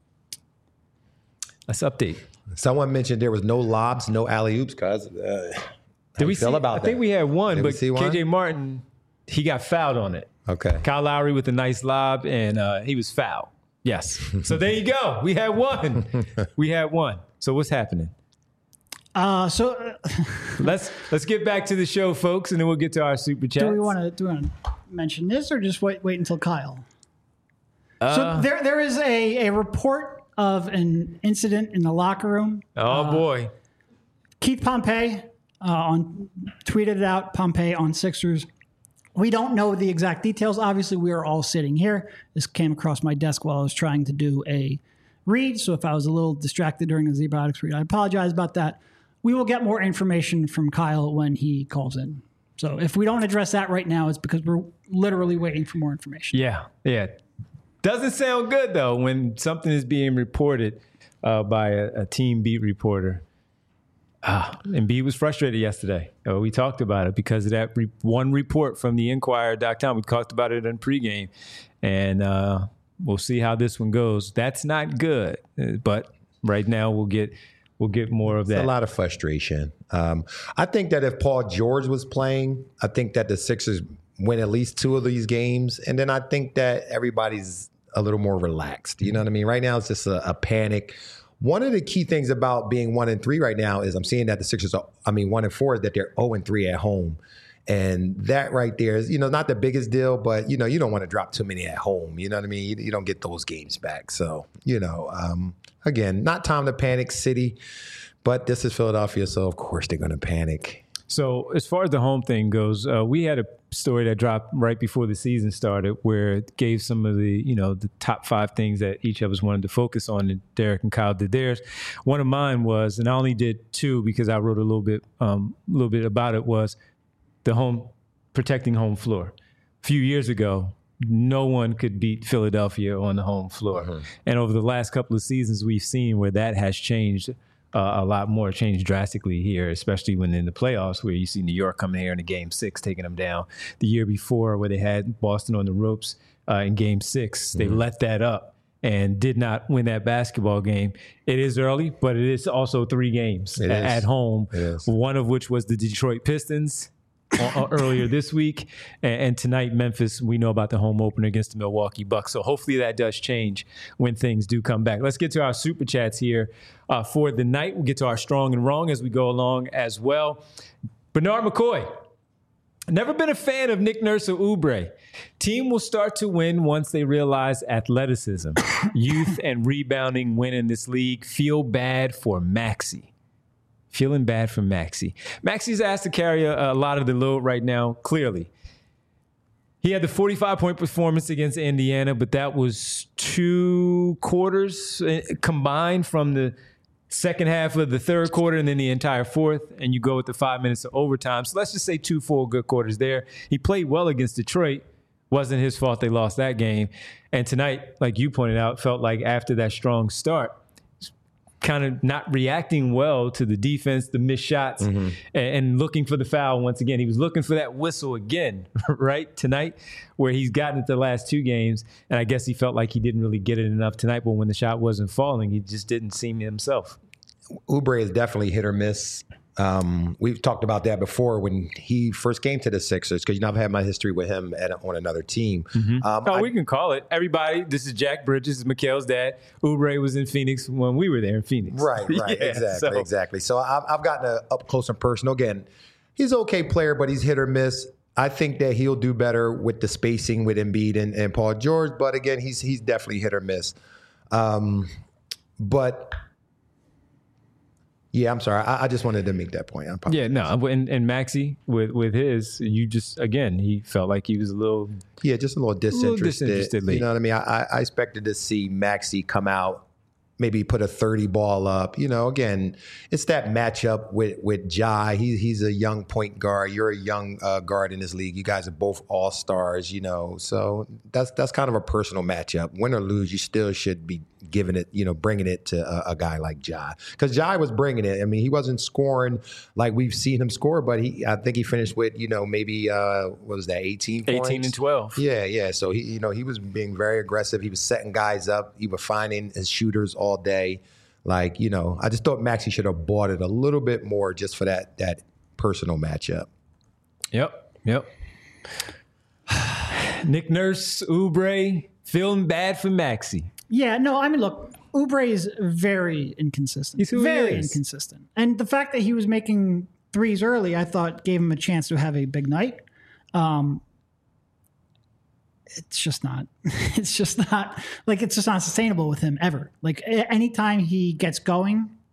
Let's update. Someone mentioned there was no lobs, no alley-oops, cuz. Uh, how Did we you feel see, about I that? think we had one, Did we but see one? K J Martin, he got fouled on it. Okay. Kyle Lowry with a nice lob, and uh, he was fouled. Yes. So there you go. We had one. We had one. So what's happening? Uh, so uh, let's let's get back to the show, folks, and then we'll get to our super chats. do we want to do we want to mention this or just wait wait until Kyle? Uh, so there there is a, a report of an incident in the locker room. Oh, uh, boy. Keith Pompey uh, on tweeted it out, Pompey on Sixers. We don't know the exact details. Obviously, we are all sitting here. This came across my desk while I was trying to do a read. So if I was a little distracted during the Zbiotics read, I apologize about that. We will get more information from Kyle when he calls in. So if we don't address that right now, it's because we're literally waiting for more information. Yeah, yeah. Doesn't sound good, though, when something is being reported uh, by a, a team beat reporter. Ah, Embiid was frustrated yesterday. Uh, we talked about it because of that re- one report from the Inquirer dot com. We talked about it in pregame, and uh, we'll see how this one goes. That's not good, uh, but right now we'll get we'll get more of that. It's a lot of frustration. Um, I think that if Paul George was playing, I think that the Sixers win at least two of these games, and then I think that everybody's a little more relaxed. You know what I mean? Right now it's just a, a panic. One of the key things about being one and three right now is I'm seeing that the Sixers are, I mean, one and four is that they're zero and three at home. And that right there is, you know, not the biggest deal, but, you know, you don't want to drop too many at home. You know what I mean? You, you don't get those games back. So, you know, um, again, not time to panic, City, but this is Philadelphia. So, of course, they're going to panic. So as far as the home thing goes, uh, we had a story that dropped right before the season started where it gave some of the, you know, the top five things that each of us wanted to focus on, and Derek and Kyle did theirs. One of mine was, and I only did two because I wrote a little bit, um, a little bit about it, was the home, protecting home floor. A few years ago, no one could beat Philadelphia on the home floor. Mm-hmm. And over the last couple of seasons, we've seen where that has changed Uh, a lot more, changed drastically here, especially when in the playoffs where you see New York coming here in a game six, taking them down. The year before where they had Boston on the ropes uh, in game six, they mm-hmm. let that up and did not win that basketball game. It is early, but it is also three games a- at home, one of which was the Detroit Pistons uh, earlier this week. And, and tonight, Memphis, we know about the home opener against the Milwaukee Bucks. So hopefully that does change when things do come back. Let's get to our super chats here uh, for the night. We'll get to our strong and wrong as we go along as well. Bernard McCoy. Never been a fan of Nick Nurse or Oubre. Team will start to win once they realize athleticism, youth, and rebounding win in this league. Feel bad for Maxey. Feeling bad for Maxey. Maxey's asked to carry a, a lot of the load right now, clearly. He had the forty-five point performance against Indiana, but that was two quarters combined from the second half of the third quarter and then the entire fourth, and you go with the five minutes of overtime. So let's just say two full good quarters there. He played well against Detroit. Wasn't his fault they lost that game. And tonight, like you pointed out, felt like after that strong start, kind of not reacting well to the defense, the missed shots, mm-hmm. and, and looking for the foul once again. He was looking for that whistle again, right, tonight, where he's gotten it the last two games, and I guess he felt like he didn't really get it enough tonight, but when the shot wasn't falling, he just didn't seem himself. Oubre is definitely hit or miss. Um, we've talked about that before when he first came to the Sixers, because you know I've had my history with him at, on another team. Mm-hmm. Um, oh, I, we can call it. Everybody, this is Jack Bridges, this is Mikhail's dad. Oubre was in Phoenix when we were there in Phoenix. Right, right, yeah, exactly, so. exactly. So I've, I've gotten a up close and personal. Again, he's an okay player, but he's hit or miss. I think that he'll do better with the spacing with Embiid and, and Paul George, but again, he's he's definitely hit or miss. Um, but. Yeah, I'm sorry. I, I just wanted to make that point. Yeah, no, and, and Maxey with with his, you just again, he felt like he was a little, yeah, just a little disinterested. A little disinterestedly. You know what I mean? I, I expected to see Maxey come out, maybe put a thirty ball up. You know, again, it's that matchup with with Ja. He, he's a young point guard. You're a young uh, guard in this league. You guys are both all stars. You know, so that's that's kind of a personal matchup. Win or lose, you still should be giving it, you know, bringing it to a, a guy like Ja, because Ja was bringing it. I mean, he wasn't scoring like we've seen him score, but he, I think he finished with, you know, maybe uh, what was that, eighteen points? eighteen and twelve. Yeah, yeah. So he, you know, he was being very aggressive. He was setting guys up. He was finding his shooters all day. Like, you know, I just thought Maxey should have bought it a little bit more just for that that personal matchup. Yep, yep. Nick Nurse, Oubre, feeling bad for Maxey. Yeah, no, I mean, look, Oubre is very inconsistent. He's who very he is. inconsistent. And the fact that he was making threes early, I thought gave him a chance to have a big night. Um, it's just not, it's just not, like, it's just not sustainable with him ever. Like, anytime he gets going,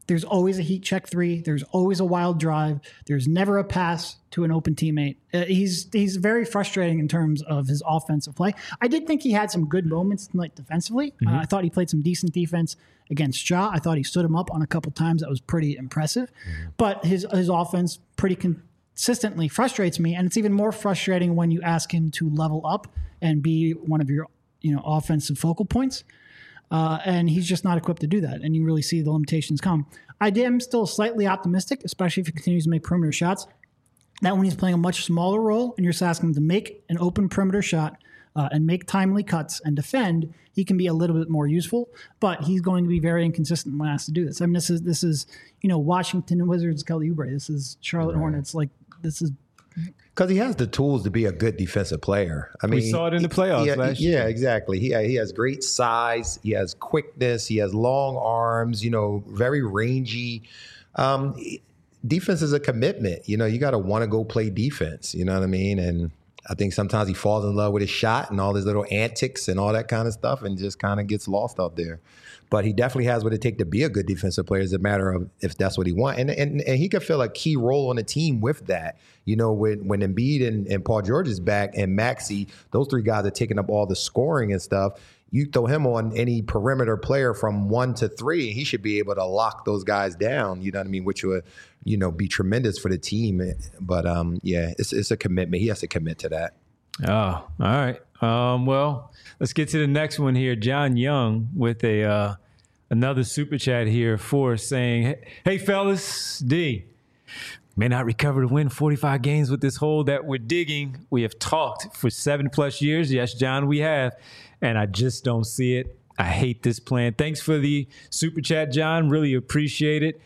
There's always a heat check three. There's always a wild drive. There's never a pass to an open teammate. Uh, he's he's very frustrating in terms of his offensive play. I did think he had some good moments tonight defensively. Mm-hmm. Uh, I thought he played some decent defense against Ja. I thought he stood him up on a couple times. That was pretty impressive. Mm-hmm. But his his offense pretty consistently frustrates me, and it's even more frustrating when you ask him to level up and be one of your you know offensive focal points. Uh, and he's just not equipped to do that. And you really see the limitations come. I am still slightly optimistic, especially if he continues to make perimeter shots, that when he's playing a much smaller role and you're just asking him to make an open perimeter shot uh, and make timely cuts and defend, he can be a little bit more useful. But he's going to be very inconsistent when asked to do this. I mean, this is, this is you know, Washington Wizards, Kelly Oubre. This is Charlotte right. Hornets. Like, this is... Because he has the tools to be a good defensive player. I mean, we saw it in the playoffs he, last yeah, year. Yeah, exactly. He he has great size. He has quickness. He has long arms. You know, very rangy. Um, defense is a commitment. You know, you got to want to go play defense. You know what I mean? And I think sometimes he falls in love with his shot and all his little antics and all that kind of stuff, and just kind of gets lost out there. But he definitely has what it takes to be a good defensive player. It's a matter of if that's what he wants. And and, and he could fill a key role on the team with that. You know, when, when Embiid and, and Paul George is back and Maxey, those three guys are taking up all the scoring and stuff. You throw him on any perimeter player from one to three, he should be able to lock those guys down, you know what I mean, which would, you know, be tremendous for the team. But, um, yeah, it's it's a commitment. He has to commit to that. Oh, all right. Um, well, let's get to the next one here. John Young with a uh, another super chat here for saying, hey, fellas, D, may not recover to win forty-five games with this hole that we're digging. We have talked for seven plus years. Yes, John, we have. And I just don't see it. I hate this plan. Thanks for the super chat, John. Really appreciate it.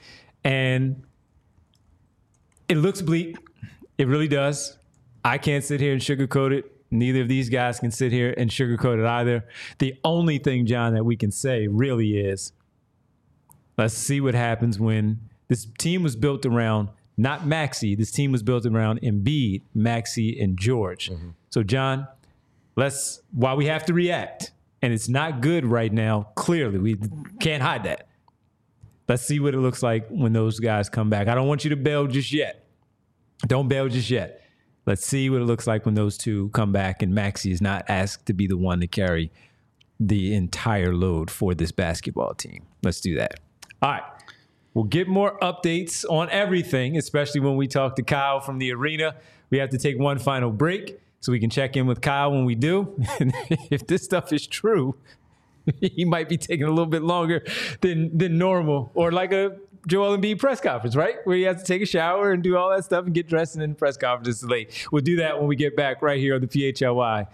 And it looks bleak. It really does. I can't sit here and sugarcoat it. Neither of these guys can sit here and sugarcoat it either. The only thing, John, that we can say really is, let's see what happens when this team was built around not Maxey. This team was built around Embiid, Maxey, and George. Mm-hmm. So, John, let's, while we have to react, and it's not good right now, clearly, we can't hide that. Let's see what it looks like when those guys come back. I don't want you to bail just yet. Don't bail just yet. Let's see what it looks like when those two come back and Maxey is not asked to be the one to carry the entire load for this basketball team. Let's do that. All right. We'll get more updates on everything, especially when we talk to Kyle from the arena. We have to take one final break so we can check in with Kyle when we do. And if this stuff is true, he might be taking a little bit longer than than normal, or like a Joel Embiid press conference, right? Where he has to take a shower and do all that stuff and get dressed, and then the press conference is late. We'll do that when we get back right here on the P H L Y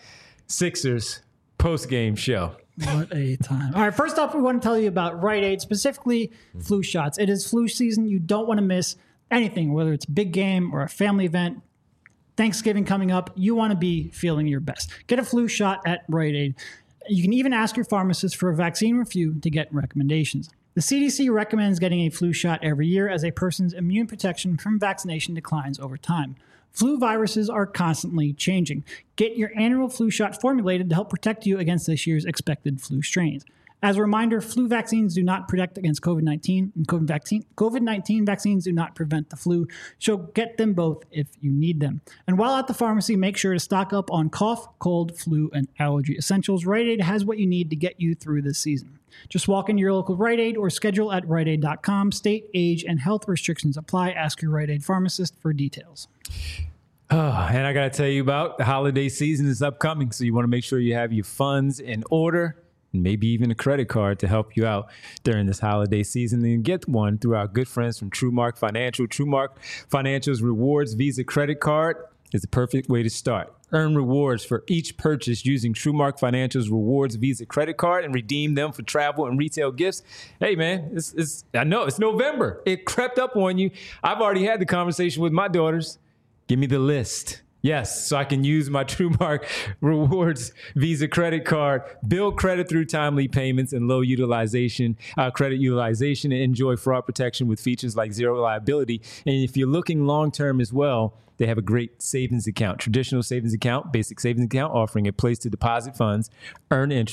Sixers post-game show. What a time. All right, first off, we want to tell you about Rite Aid, specifically flu shots. It is flu season. You don't want to miss anything, whether it's a big game or a family event. Thanksgiving coming up, you want to be feeling your best. Get a flu shot at Rite Aid. You can even ask your pharmacist for a vaccine review to get recommendations. The C D C recommends getting a flu shot every year as a person's immune protection from vaccination declines over time. Flu viruses are constantly changing. Get your annual flu shot formulated to help protect you against this year's expected flu strains. As a reminder, flu vaccines do not protect against COVID nineteen, and COVID nineteen vaccines do not prevent the flu, so get them both if you need them. And while at the pharmacy, make sure to stock up on cough, cold, flu, and allergy essentials. Rite Aid has what you need to get you through this season. Just walk into your local Rite Aid or schedule at rite aid dot com. State, age, and health restrictions apply. Ask your Rite Aid pharmacist for details. Oh, and I got to tell you about the holiday season is upcoming, so you want to make sure you have your funds in order, and maybe even a credit card to help you out during this holiday season. And get one through our good friends from TrueMark Financial. TrueMark Financial's Rewards Visa Credit Card is the perfect way to start. Earn rewards for each purchase using TrueMark Financial's Rewards Visa Credit Card and redeem them for travel and retail gifts. Hey, man, it's, it's, I know it's November. It crept up on you. I've already had the conversation with my daughters. Give me the list. Yes, so I can use my TrueMark Rewards Visa Credit Card, build credit through timely payments and low utilization, uh, credit utilization, and enjoy fraud protection with features like zero liability. And if you're looking long-term as well, they have a great savings account, traditional savings account, basic savings account, offering a place to deposit funds, earn interest,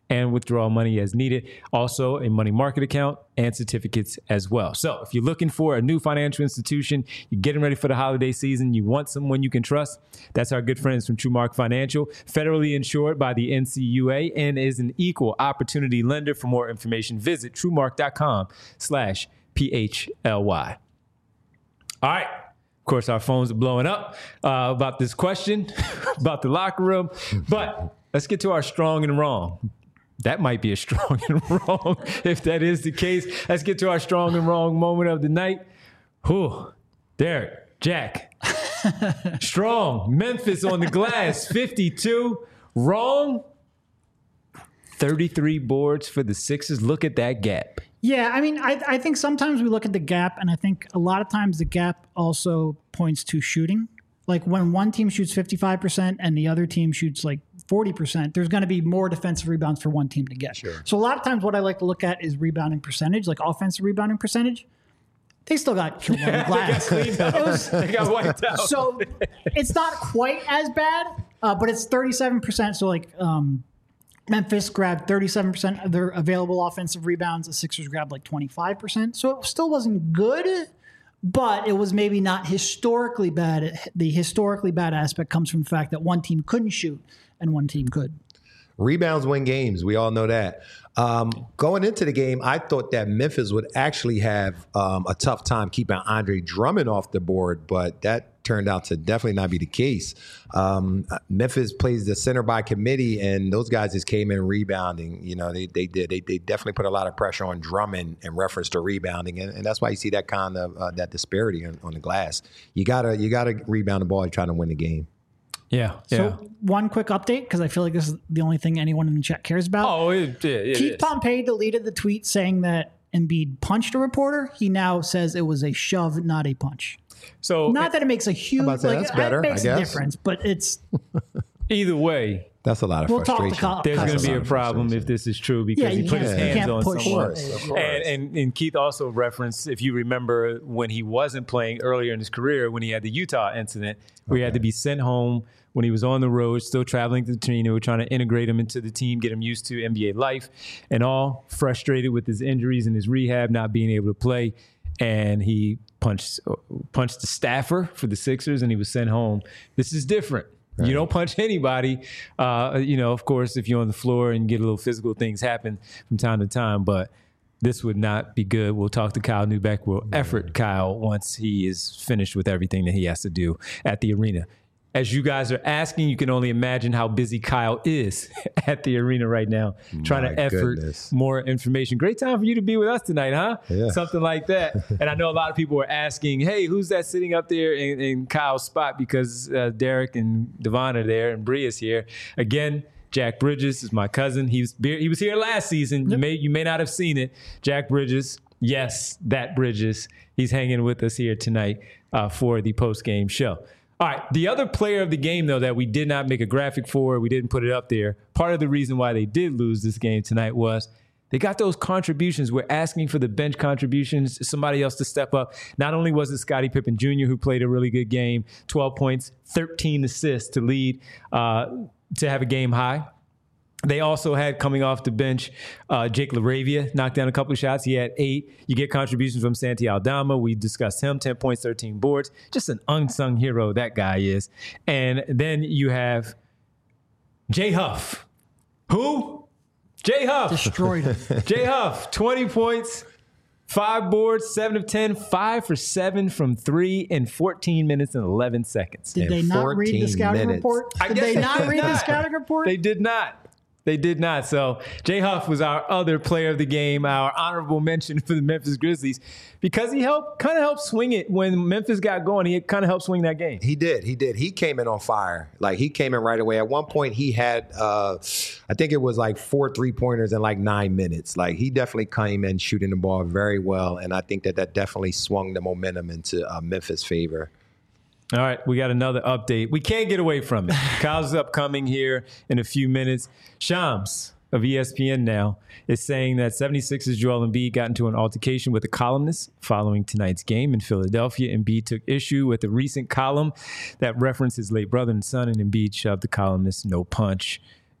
and withdraw money as needed. Also, a money market account and certificates as well. So if you're looking for a new financial institution, you're getting ready for the holiday season, you want someone you can trust, that's our good friends from TrueMark Financial, federally insured by the N C U A and is an equal opportunity lender. For more information, visit truemark.com slash P-H-L-Y. All right. Of course, our phones are blowing up uh, about this question, about the locker room. But let's get to our strong and wrong. That might be a strong and wrong. If that is the case, let's get to our strong and wrong moment of the night. Whew. Derek, Jack. Strong. Memphis on the glass, fifty-two. Wrong. thirty-three boards for the Sixers. Look at that gap. Yeah, I mean, I, I think sometimes we look at the gap, and I think a lot of times the gap also points to shooting. Like when one team shoots fifty-five percent and the other team shoots like forty percent, there's going to be more defensive rebounds for one team to get. Sure. So a lot of times what I like to look at is rebounding percentage, like offensive rebounding percentage. They still got killed on the glass. they, got it was, they got wiped out. So it's not quite as bad, uh, but it's thirty-seven percent. So like um, Memphis grabbed thirty-seven percent of their available offensive rebounds. The Sixers grabbed like twenty-five percent. So it still wasn't good, but it was maybe not historically bad. The historically bad aspect comes from the fact that one team couldn't shoot and one team could. Rebounds win games. We all know that. Um, going into the game, I thought that Memphis would actually have um, a tough time keeping Andre Drummond off the board, but that turned out to definitely not be the case. Um, Memphis plays the center by committee, and those guys just came in rebounding. You know, they they did. They, they definitely put a lot of pressure on Drummond in reference to rebounding, and, and that's why you see that kind of uh, that disparity on, on the glass. You gotta you gotta rebound the ball trying to win the game. Yeah. So yeah. one quick update, because I feel like this is the only thing anyone in the chat cares about. Oh, it, it, it Keith is. Pompey deleted the tweet saying that Embiid punched a reporter. He now says it was a shove, not a punch. So not that it makes a huge say, like, that's better, it makes I a guess. difference, but it's either way, that's a lot of we'll frustration. Talk to There's going to be a of problem if this is true because Yeah, he you put his can't- you hands can't on push. someone. Of course, of course. And, and and Keith also referenced, if you remember, when he wasn't playing earlier in his career, when he had the Utah incident, where he had to be sent home when he was on the road, still traveling to the team. They were trying to integrate him into the team, get him used to N B A life, and all frustrated with his injuries and his rehab, not being able to play. And he punched punched the staffer for the Sixers, and he was sent home. This is different. Right. You don't punch anybody. Uh, you know, of course, if you're on the floor and get a little physical, things happen from time to time. But this would not be good. We'll talk to Kyle Neubeck. We'll effort Kyle once he is finished with everything that he has to do at the arena. As you guys are asking, you can only imagine how busy Kyle is at the arena right now, trying My to effort goodness. more information. Great time for you to be with us tonight, huh? Yeah. Something like that. And I know a lot of people were asking, hey, who's that sitting up there in, in Kyle's spot? Because uh, Derek and Devon are there and Bree is here. Again, Jack Bridges is my cousin. He was he was here last season. You may you may not have seen it. Jack Bridges, yes, that Bridges. He's hanging with us here tonight uh, for the post-game show. All right, the other player of the game, though, that we did not make a graphic for, we didn't put it up there, part of the reason why they did lose this game tonight was they got those contributions. We're asking for the bench contributions, somebody else to step up. Not only was it Scottie Pippen Junior who played a really good game, twelve points, thirteen assists to lead, uh, to have a game high. They also had, coming off the bench, uh, Jake LaRavia knocked down a couple of shots. He had eight. You get contributions from Santi Aldama. We discussed him, ten points, thirteen boards. Just an unsung hero, that guy is. And then you have Jay Huff. Who? Jay Huff. destroyed it. Jay Huff, twenty points, five boards, seven of ten, five for seven from three in fourteen minutes and eleven seconds. Did In they not read the fourteen scouting minutes. report? I Did guess they they not did read the not. scouting report? They did not. They did not. So Jay Huff was our other player of the game, our honorable mention for the Memphis Grizzlies, because he helped kind of helped swing it when Memphis got going. He kind of helped swing that game. He did. He did. He came in on fire. Like, he came in right away. At one point, he had, uh, I think it was like four three-pointers in like nine minutes. Like, he definitely came in shooting the ball very well, and I think that that definitely swung the momentum into uh, Memphis' favor. All right, we got another update. We can't get away from it. Kyle's upcoming here in a few minutes. Shams of E S P N now is saying that seventy-sixers Joel Embiid got into an altercation with a columnist following tonight's game in Philadelphia. Embiid took issue with a recent column that referenced his late brother and son, and Embiid shoved the columnist no punch.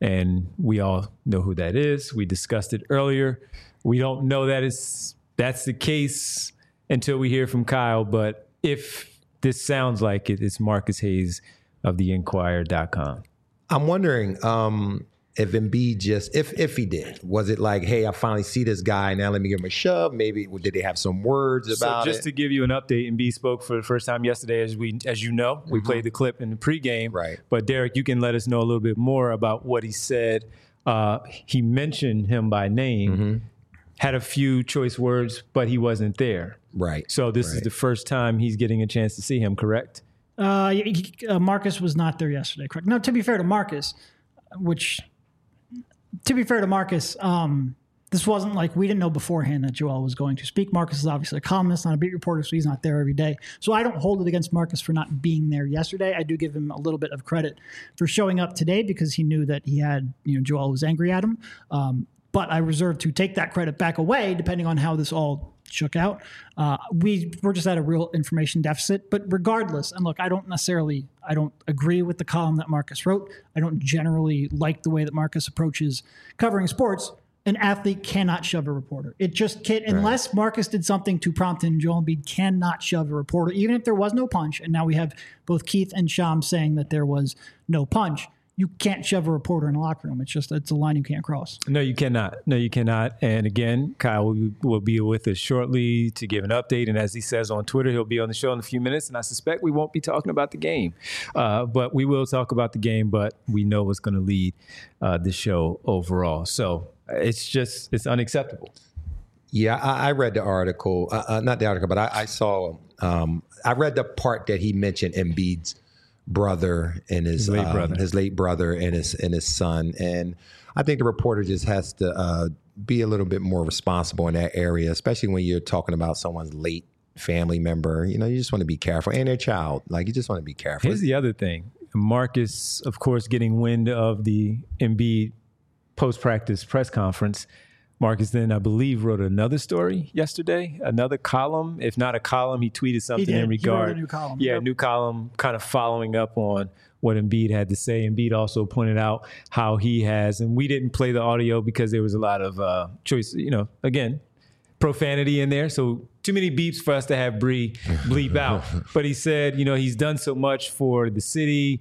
and we all know who that is. We discussed it earlier. We don't know that it's that's the case until we hear from Kyle, but if this sounds like it, it's Marcus Hayes of the Inquirer dot com. I'm wondering um, if Embiid just, if if he did, was it like, hey, I finally see this guy, now let me give him a shove? Maybe did they have some words about so just it? to give you an update, Embiid spoke for the first time yesterday, as we, as you know, we mm-hmm. played the clip in the pregame. Right. But Derek, you can let us know a little bit more about what he said. Uh, he mentioned him by name, mm-hmm. had a few choice words, but he wasn't there. Right. So this right. is the first time he's getting a chance to see him, correct? Uh, he, uh, Marcus was not there yesterday, correct? No, to be fair to Marcus, which, to be fair to Marcus, um, this wasn't like we didn't know beforehand that Joel was going to speak. Marcus is obviously a columnist, not a beat reporter, so he's not there every day. So I don't hold it against Marcus for not being there yesterday. I do give him a little bit of credit for showing up today because he knew that he had, you know, Joel was angry at him. Um, but I reserve to take that credit back away depending on how this all shook out. Uh, we we're just at a real information deficit, but regardless, and look, I don't necessarily, I don't agree with the column that Marcus wrote. I don't generally like the way that Marcus approaches covering sports. An athlete cannot shove a reporter. It just can't, right. unless Marcus did something to prompt him. Joel Embiid cannot shove a reporter, even if there was no punch. And now we have both Keith and Sham saying that there was no punch. You can't shove a reporter in a locker room. It's just, it's a line you can't cross. No, you cannot. No, you cannot. And again, Kyle will, will be with us shortly to give an update. And as he says on Twitter, he'll be on the show in a few minutes. And I suspect we won't be talking about the game, uh, but we will talk about the game, but we know what's going to lead uh, the show overall. So it's just, it's unacceptable. Yeah, I, I read the article, uh, uh, not the article, but I, I saw, um, I read the part that he mentioned Embiid's brother and his, his late um, brother, his late brother and his and his son, and I think the reporter just has to uh, be a little bit more responsible in that area, especially when you're talking about someone's late family member. You know, you just want to be careful, and their child. Like, you just want to be careful. Here's the other thing: Marcus, of course, getting wind of the Embiid post-practice press conference. Marcus then, I believe, wrote another story yesterday, another column. If not a column, he tweeted something he in regard. He wrote a new column. Yeah, yep. new column kind of following up on what Embiid had to say. Embiid also pointed out how he has, and we didn't play the audio because there was a lot of uh, choice, you know, again, profanity in there. So too many beeps for us to have Bree bleep out. But he said, you know, he's done so much for the city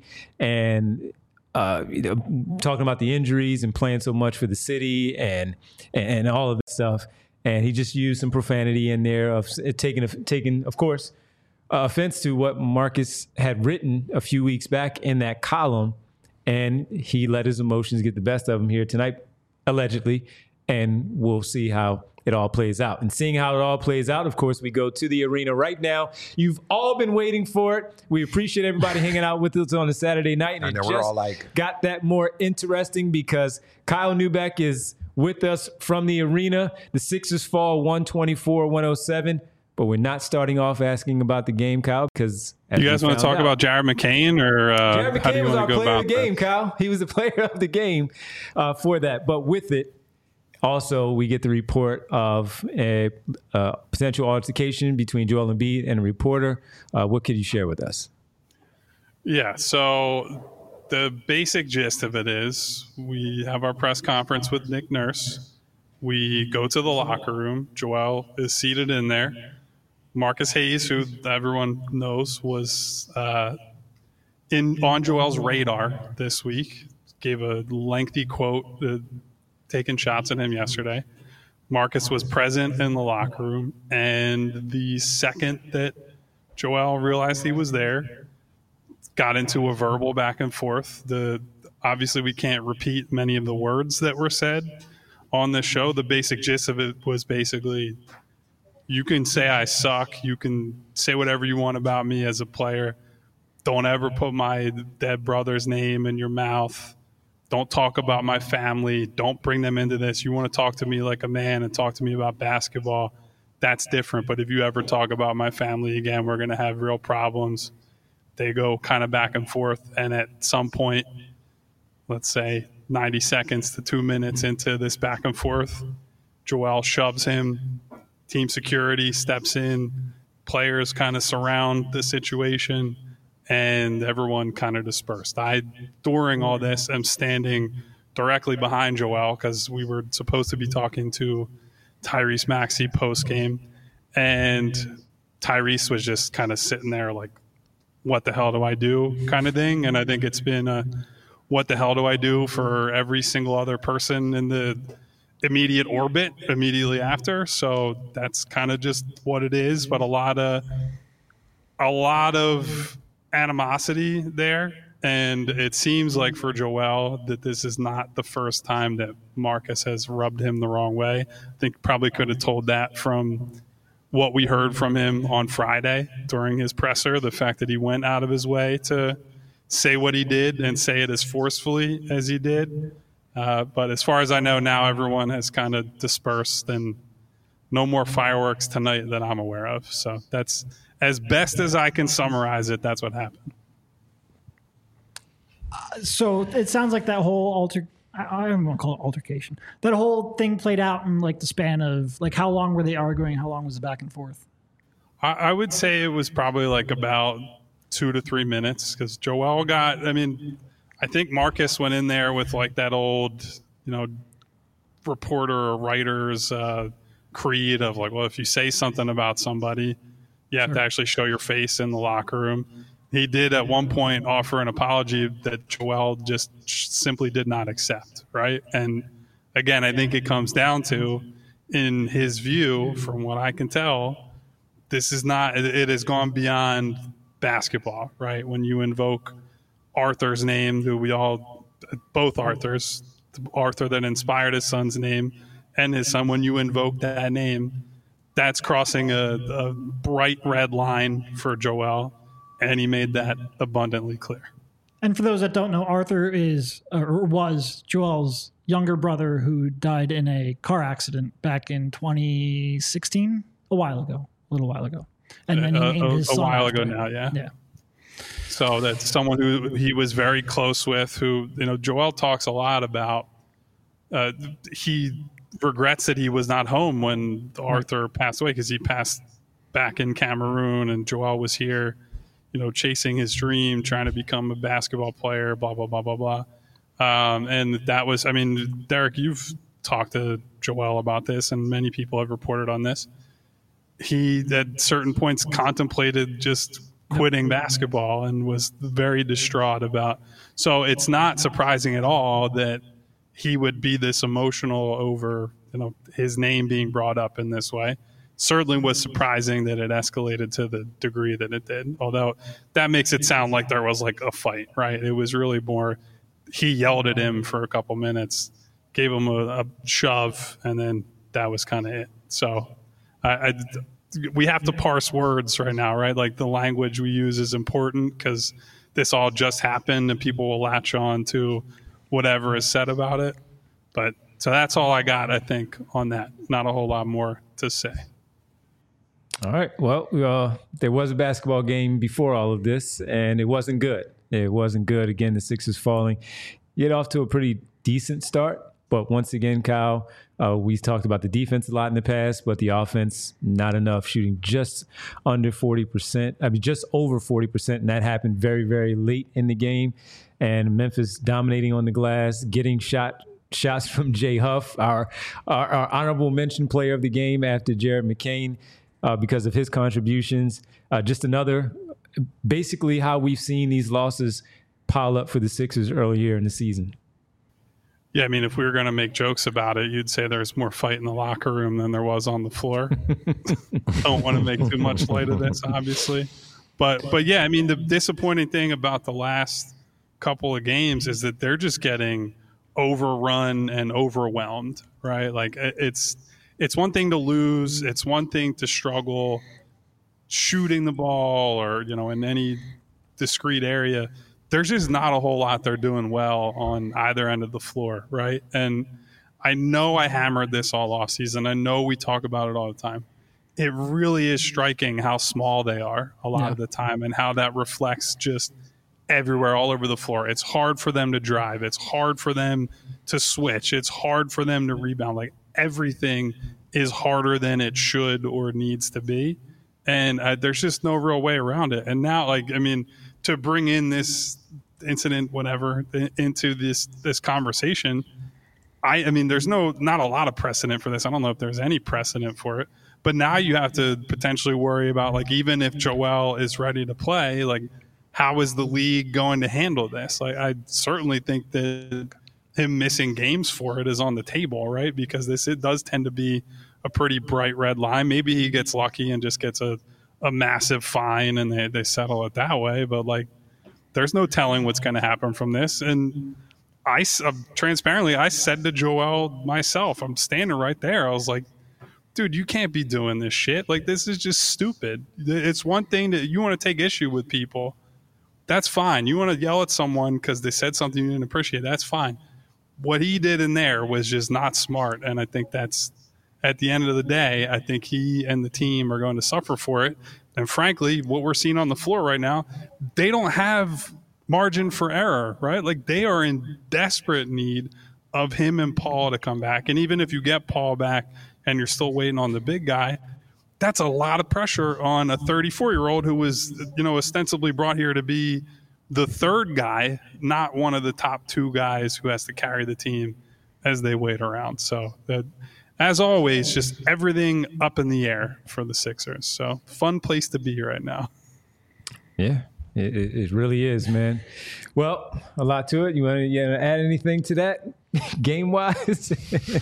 and Uh, you know, talking about the injuries and playing so much for the city and and all of this stuff, and he just used some profanity in there of taking taking, of course, uh, offense to what Marcus had written a few weeks back in that column, and he let his emotions get the best of him here tonight, allegedly, and we'll see how it all plays out. And seeing how it all plays out, of course, we go to the arena right now. You've all been waiting for it. We appreciate everybody hanging out with us on a Saturday night. And I know, it we're just all like, got that more interesting because Kyle Neubeck is with us from the arena. The Sixers fall one twenty-four one oh seven, but we're not starting off asking about the game, Kyle, because you guys want to talk out, about Jared McCain or uh, Jared McCain how do you was want our to go player about of the game, that? Kyle. He was the player of the game uh, for that. But with it, also, we get the report of a uh, potential altercation between Joel Embiid and a reporter. Uh, what could you share with us? Yeah, so the basic gist of it is we have our press conference with Nick Nurse. We go to the locker room. Joel is seated in there. Marcus Hayes, who everyone knows, was uh, in on Joel's radar this week, gave a lengthy quote uh, taking shots at him yesterday. Marcus was present in the locker room, and the second that Joel realized he was there, got into a verbal back and forth. The obviously we can't repeat many of the words that were said on the show. The basic gist of it was basically, you can say I suck, you can say whatever you want about me as a player. Don't ever put my dead brother's name in your mouth. Don't talk about my family. Don't bring them into this. You want to talk to me like a man and talk to me about basketball. That's different. But if you ever talk about my family again, we're going to have real problems. They go kind of back and forth. And at some point, let's say ninety seconds to two minutes into this back and forth, Joel shoves him. Team security steps in. Players kind of surround the situation. And everyone kind of dispersed. I, during all this, am standing directly behind Joel because we were supposed to be talking to Tyrese Maxey post game, and Tyrese was just kind of sitting there like, what the hell do I do kind of thing. And I think it's been a what the hell do I do for every single other person in the immediate orbit immediately after. So that's kind of just what it is. But a lot of a lot of animosity there. And it seems like for Joel that this is not the first time that Marcus has rubbed him the wrong way. I think probably could have told that from what we heard from him on Friday during his presser, the fact that he went out of his way to say what he did and say it as forcefully as he did. Uh, but as far as I know now, everyone has kind of dispersed and no more fireworks tonight that I'm aware of. So that's as best as I can summarize it. That's what happened. So it sounds like that whole alter I don't want to call it altercation. That whole thing played out in like the span of like how long were they arguing? How long was the back and forth? I, I would say it was probably like about two to three minutes because Joel got, I mean, I think Marcus went in there with like that old, you know, reporter or writer's uh, creed of like, well, if you say something about somebody, you have sure. to actually show your face in the locker room. He did at one point offer an apology that Joel just simply did not accept, right? And again, I think it comes down to, in his view, from what I can tell, this is not, it has gone beyond basketball, right? When you invoke Arthur's name, who we all, both Arthurs, Arthur that inspired his son's name and his son, when you invoke that name, that's crossing a, a bright red line for Joel. And he made that abundantly clear. And for those that don't know, Arthur is or was Joel's younger brother who died in a car accident back in twenty sixteen, a while ago, a little while ago. And then he uh, named a, his a son while after ago him. now, yeah. Yeah. So that's someone who he was very close with. Who you know, Joel talks a lot about. Uh, he regrets that he was not home when Arthur passed away because he passed back in Cameroon and Joel was here. You know, chasing his dream, trying to become a basketball player, blah, blah, blah, blah, blah. Um, and that was, I mean, Derek, you've talked to Joel about this, and many people have reported on this. He, at certain points, contemplated just quitting basketball and was very distraught about. So it's not surprising at all that he would be this emotional over, you know, his name being brought up in this way. Certainly was surprising that it escalated to the degree that it did, although that makes it sound like there was like a fight, right? It was really more, he yelled at him for a couple minutes, gave him a, a shove, and then that was kind of it. So I, I, we have to parse words right now, right? Like the language we use is important because this all just happened and people will latch on to whatever is said about it. But so that's all I got, I think, on that. Not a whole lot more to say. All right. Well, uh, there was a basketball game before all of this, and it wasn't good. It wasn't good. Again, the Sixers falling. Get off to a pretty decent start. But once again, Kyle, uh, we talked about the defense a lot in the past, but the offense, not enough, shooting just under forty percent. I mean, just over forty percent, and that happened very, very late in the game. And Memphis dominating on the glass, getting shot shots from Jay Huff, our, our, our honorable mention player of the game after Jared McCain. Uh, because of his contributions. Uh, just another, basically how we've seen these losses pile up for the Sixers earlier in the season. Yeah, I mean, if we were going to make jokes about it, you'd say there's more fight in the locker room than there was on the floor. Don't want to make too much light of this, obviously. But, but yeah, I mean, the disappointing thing about the last couple of games is that they're just getting overrun and overwhelmed, right? Like it's... It's one thing to lose. It's one thing to struggle shooting the ball or, you know, in any discrete area. There's just not a whole lot they're doing well on either end of the floor, right? And I know I hammered this all off season. I know we talk about it all the time. It really is striking how small they are a lot yeah. of the time and how that reflects just everywhere, all over the floor. It's hard for them to drive. It's hard for them to switch. It's hard for them to rebound. Like, everything is harder than it should or needs to be. And uh, there's just no real way around it. And now, like, I mean, to bring in this incident, whatever, into this this conversation. I, I mean, there's no not a lot of precedent for this. I don't know if there's any precedent for it. But now you have to potentially worry about, like, even if Joel is ready to play, like, how is the league going to handle this? Like, I certainly think that him missing games for it is on the table, right? Because this it does tend to be a pretty bright red line. Maybe he gets lucky and just gets a, a massive fine and they, they settle it that way. But, like, there's no telling what's going to happen from this. And I uh, transparently, I said to Joel myself, I'm standing right there. I was like, dude, you can't be doing this shit. Like, this is just stupid. It's one thing that you want to take issue with people. That's fine. You want to yell at someone because they said something you didn't appreciate. That's fine. What he did in there was just not smart. And I think that's, at the end of the day, I think he and the team are going to suffer for it. And frankly, what we're seeing on the floor right now, they don't have margin for error, right? Like, they are in desperate need of him and Paul to come back. And even if you get Paul back, and you're still waiting on the big guy, that's a lot of pressure on a thirty-four-year-old who was, you know, ostensibly brought here to be the third guy, not one of the top two guys who has to carry the team as they wait around. So, that, as always, just everything up in the air for the Sixers. So, fun place to be right now. Yeah, it, it really is, man. Well, a lot to it. You want to, you want to add anything to that? Game-wise?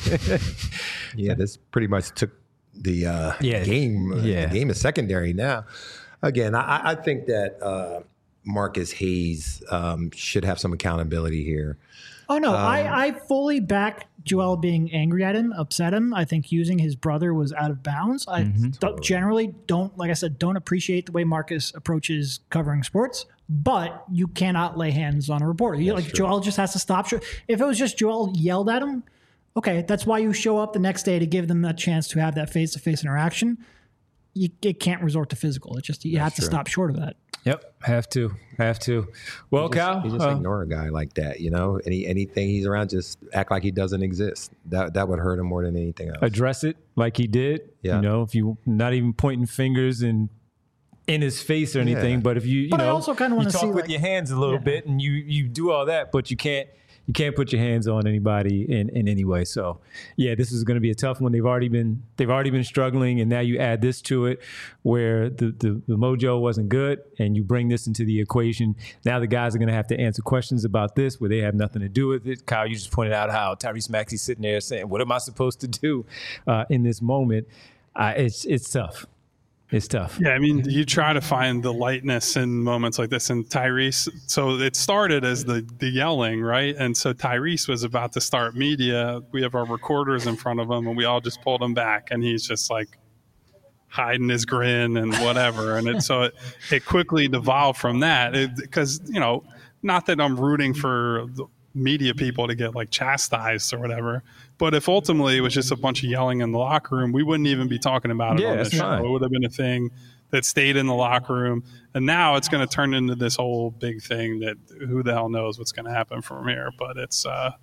Yeah, this pretty much took the uh, yeah. game. Yeah. The game is secondary now. Again, I, I think that uh, Marcus Hayes um, should have some accountability here. Oh, no, Um, I, I fully back Joel being angry at him, upset him. I think using his brother was out of bounds. I Mm-hmm. don't- Totally. generally don't, like I said, don't appreciate the way Marcus approaches covering sports, but you cannot lay hands on a reporter. You, like true. Joel just has to stop. If it was just Joel yelled at him, okay, that's why you show up the next day to give them a chance to have that face-to-face interaction. You it can't resort to physical. It just you have to true. stop short of that. Yep, have to, have to. Well, Just, Kyle, you just uh, ignore a guy like that, you know. Any anything he's around, just act like he doesn't exist. That that would hurt him more than anything else. address it like he did. Yeah. You know, if you not even pointing fingers and in his face or anything, Yeah. but if you, you But I know, also kinda you wanna talk see, with like- your hands a little Yeah. bit and you you do all that, but you can't you can't put your hands on anybody in, in any way. So yeah, this is going to be a tough one. They've already been they've already been struggling, and now you add this to it, where the the, the mojo wasn't good, and you bring this into the equation. Now the guys are going to have to answer questions about this where they have nothing to do with it. Kyle, you just pointed out how Tyrese Maxey's sitting there saying, "What am I supposed to do uh, in this moment?" Uh, it's it's tough. It's tough. Yeah, I mean, you try to find the lightness in moments like this. And Tyrese, so it started as the, the yelling, right? And so Tyrese was about to start media. We have our recorders in front of him, and we all just pulled him back. And he's just like hiding his grin and whatever. And it, so it, it quickly devolved from that. Because, you know, not that I'm rooting for the media people to get like chastised or whatever. But if ultimately it was just a bunch of yelling in the locker room, we wouldn't even be talking about it Yeah, on this that's show. fine. It would have been a thing that stayed in the locker room. And now it's going to turn into this whole big thing that who the hell knows what's going to happen from here. But it's uh,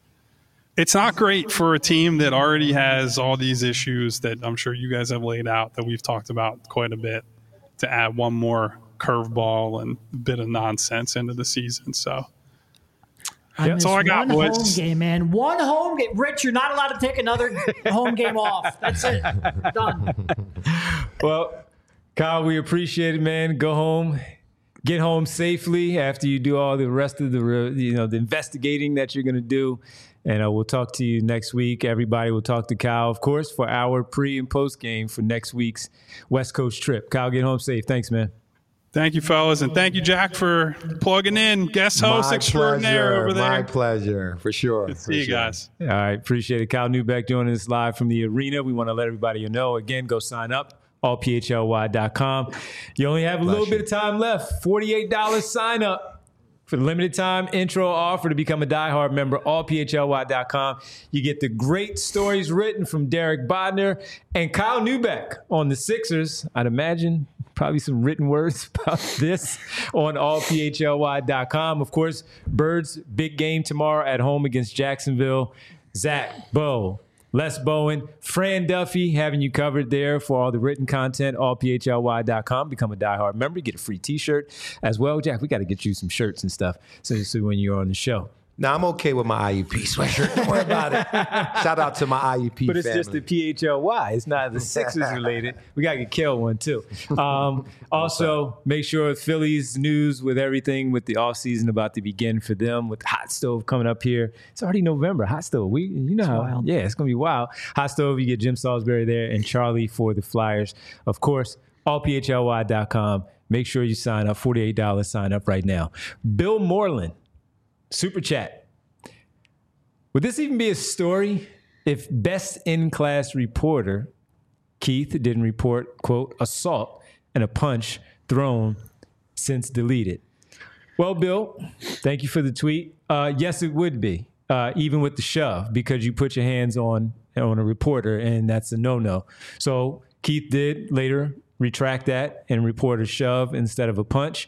it's not great for a team that already has all these issues that I'm sure you guys have laid out that we've talked about quite a bit, to add one more curveball and bit of nonsense into the season. So I Yep. missed That's all I got, one boys. home game, man. One home game. Rich, you're not allowed to take another home game off. That's it. Done. Well, Kyle, we appreciate it, man. Go home, get home safely after you do all the rest of the, re- you know, the investigating that you're going to do. And uh, we'll talk to you next week. Everybody will talk to Kyle, of course, for our pre and post game for next week's West Coast trip. Kyle, get home safe. Thanks, man. thank you, fellas. And thank you, Jack, for plugging in. Guest host my extraordinaire pleasure, over there. My pleasure, for sure. Good to for see you sure. guys. All right, appreciate it. Kyle Newbeck joining us live from the arena. We want to let everybody know, again, go sign up, all p h l y dot com. You only have a little you. bit of time left, forty-eight dollars sign up. For the limited time intro offer to become a diehard member, all p h l y dot com. You get the great stories written from Derek Bodner and Kyle Newbeck on the Sixers. I'd imagine probably some written words about this on all p h l y dot com. Of course, Birds, big game tomorrow at home against Jacksonville. Zach, Bo, Les Bowen, Fran Duffy, having you covered there for all the written content, all P H L Y dot com. Become a diehard member. Get a free T-shirt as well. Jack, we got to get you some shirts and stuff so, so when you're on the show. Now, I'm okay with my I U P sweatshirt. Don't worry about it. Shout out to my I U P But it's family. just the P H L Y. It's not the Sixers related. We got to get Kel one, too. Um, also, make sure Phillies news with everything with the offseason about to begin for them with Hot Stove coming up here. It's already November. Hot Stove. We, you know It's how, wild. yeah, it's going to be wild. Hot Stove, you get Jim Salisbury there and Charlie for the Flyers. Of course, all P H L Y dot com. Make sure you sign up. forty-eight dollars sign up right now. Bill Moreland, Super Chat. Would this even be a story if best in-class reporter Keith didn't report, quote, assault and a punch thrown since deleted? Well, Bill, thank you for the tweet. Uh, yes, it would be, uh, even with the shove, because you put your hands on, on a reporter, and that's a no-no. So Keith did later retract that and report a shove instead of a punch.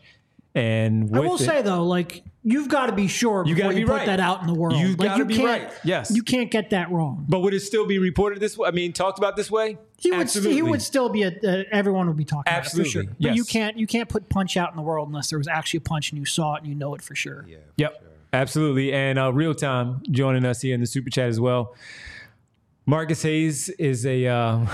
And I with will it, say though, like you've got to be sure You before gotta you be put right. that out in the world. You've like, gotta you be can't- right. Yes. you can't get that wrong. But would it still be reported this way? I mean, talked about this way? He would. Absolutely. He would still be. A, uh, everyone would be talking Absolutely, about it for sure. But yes. you can't. You can't put punch out in the world unless there was actually a punch and you saw it and you know it for sure. Yeah. Yep, absolutely. And uh, real time joining us here in the Super Chat as well. Marcus Hayes is a uh,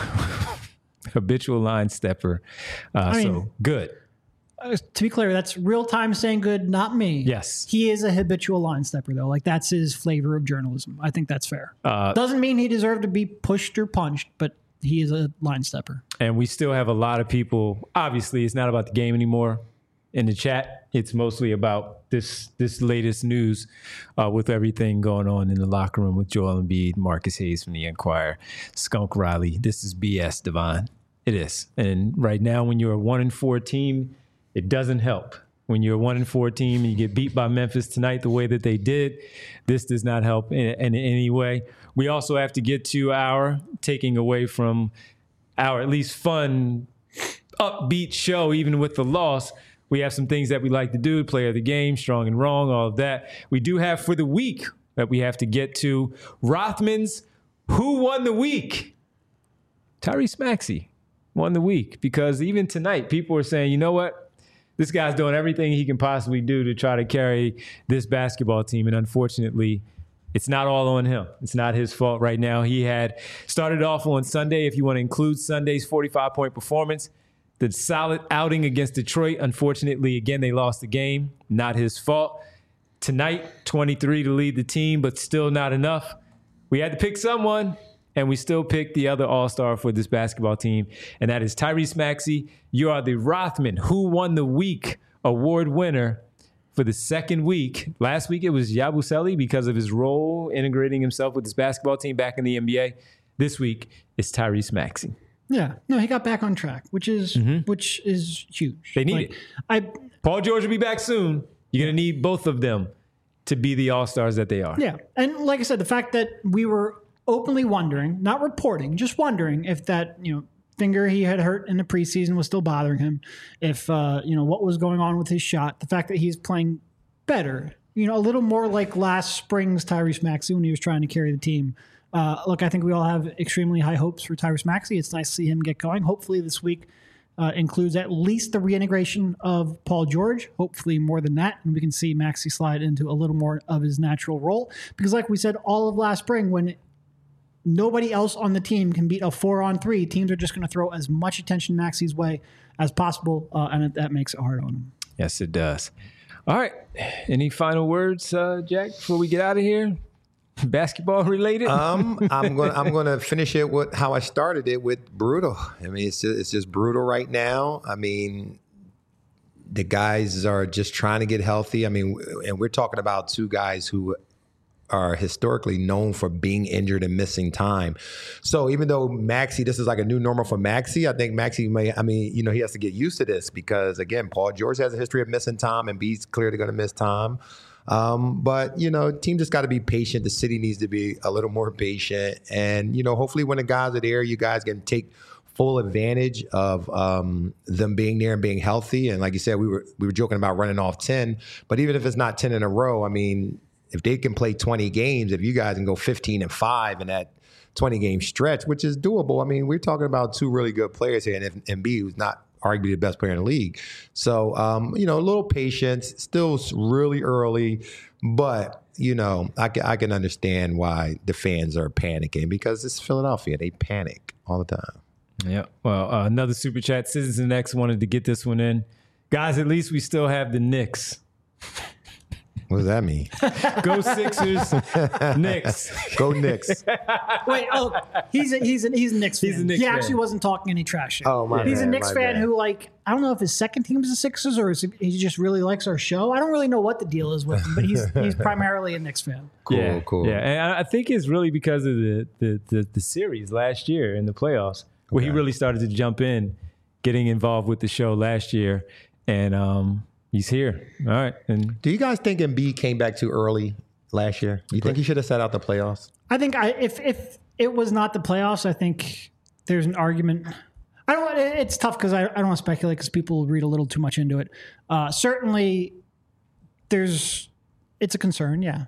habitual line stepper. Uh, I mean- so good. Uh, to be clear, that's real time saying good, not me. Yes. He is a habitual line stepper though. Like that's his flavor of journalism. I think that's fair. Uh, Doesn't mean he deserved to be pushed or punched, but he is a line stepper. And we still have a lot of people. Obviously, it's not about the game anymore in the chat. It's mostly about this this latest news uh, with everything going on in the locker room with Joel Embiid, Marcus Hayes from the Enquirer, Skunk Riley. This is B S, Devon. It is. And right now, when you're a one and four team, it doesn't help. When you're a one and four team and you get beat by Memphis tonight the way that they did, this does not help in, in any way. We also have to get to our taking away from our at least fun, upbeat show, even with the loss. We have some things that we like to do, play of the game, strong and wrong, all of that. We do have for the week that we have to get to. Rothman's Who Won the Week? Tyrese Maxey won the week because even tonight, people are saying, you know what? This guy's doing everything he can possibly do to try to carry this basketball team. And unfortunately, it's not all on him. It's not his fault right now. He had started off on Sunday, if you want to include Sunday's forty-five point performance, the solid outing against Detroit. Unfortunately, again, they lost the game. Not his fault. Tonight, twenty-three to lead the team, but still not enough. We had to pick someone, and we still picked the other all-star for this basketball team, and that is Tyrese Maxey. You are the Rothman Who Won the Week award winner for the second week. Last week, it was Yabusele because of his role integrating himself with this basketball team back in the N B A. This week, it's Tyrese Maxey. Yeah, no, he got back on track, which is which is huge. They need Like, it. I Paul George will be back soon. You're going to need both of them to be the all-stars that they are. yeah, and like I said, the fact that we were openly wondering, not reporting, just wondering if that you know finger he had hurt in the preseason was still bothering him, if uh, you know what was going on with his shot, the fact that he's playing better, you know, a little more like last spring's Tyrese Maxey when he was trying to carry the team. Uh, look, I think we all have extremely high hopes for Tyrese Maxey. It's nice to see him get going. Hopefully this week uh, includes at least the reintegration of Paul George, hopefully more than that, and we can see Maxey slide into a little more of his natural role. Because like we said all of last spring, when nobody else on the team can beat a four-on-three, teams are just going to throw as much attention Maxey's way as possible, uh, and it, that makes it hard on him. Yes, it does. All right. Any final words, uh, Jack, before we get out of here? Basketball related? Um, I'm going. I'm going to finish it with how I started it, with brutal. I mean, it's just, it's just brutal right now. I mean, the guys are just trying to get healthy. I mean, and we're talking about two guys who are historically known for being injured and missing time. So even though Maxey, this is like a new normal for Maxey, I think Maxey may, I mean, you know, he has to get used to this because, again, Paul George has a history of missing time and B's clearly going to miss time. Um, but, you know, team just got to be patient. The city needs to be a little more patient. And, you know, hopefully when the guys are there, you guys can take full advantage of um, them being there and being healthy. And like you said, we were we were joking about running off ten. But even if it's not ten in a row, I mean, if they can play twenty games, if you guys can go fifteen and five and that twenty-game stretch, which is doable. I mean, we're talking about two really good players here, and if Embiid, who's not arguably the best player in the league. So, um, you know, a little patience, still really early, but, you know, I can, I can understand why the fans are panicking because it's Philadelphia. They panic all the time. Yeah. Well, uh, another super chat. Citizen X wanted to get this one in. Guys, at least we still have the Knicks. What does that mean? Go Sixers, Knicks. Go Knicks. Wait, oh, he's a, he's a, he's a Knicks fan. He's a Knicks he fan. actually wasn't talking any trash shit. Oh, my He's bad, a Knicks my fan bad. who, like, I don't know if his second team is the Sixers or is he just really likes our show. I don't really know what the deal is with him, but he's he's primarily a Knicks fan. Cool, yeah, cool. Yeah, and I I think it's really because of the the, the, the series last year in the playoffs where Okay. he really started to jump in, getting involved with the show last year, and um, he's here. All right, and Do you guys think Embiid came back too early last year? You think he should have set out the playoffs? I think I if if it was not the playoffs, I think there's an argument. I don't. It's tough because I, I don't want to speculate because people read a little too much into it. Uh, certainly, there's it's a concern. Yeah.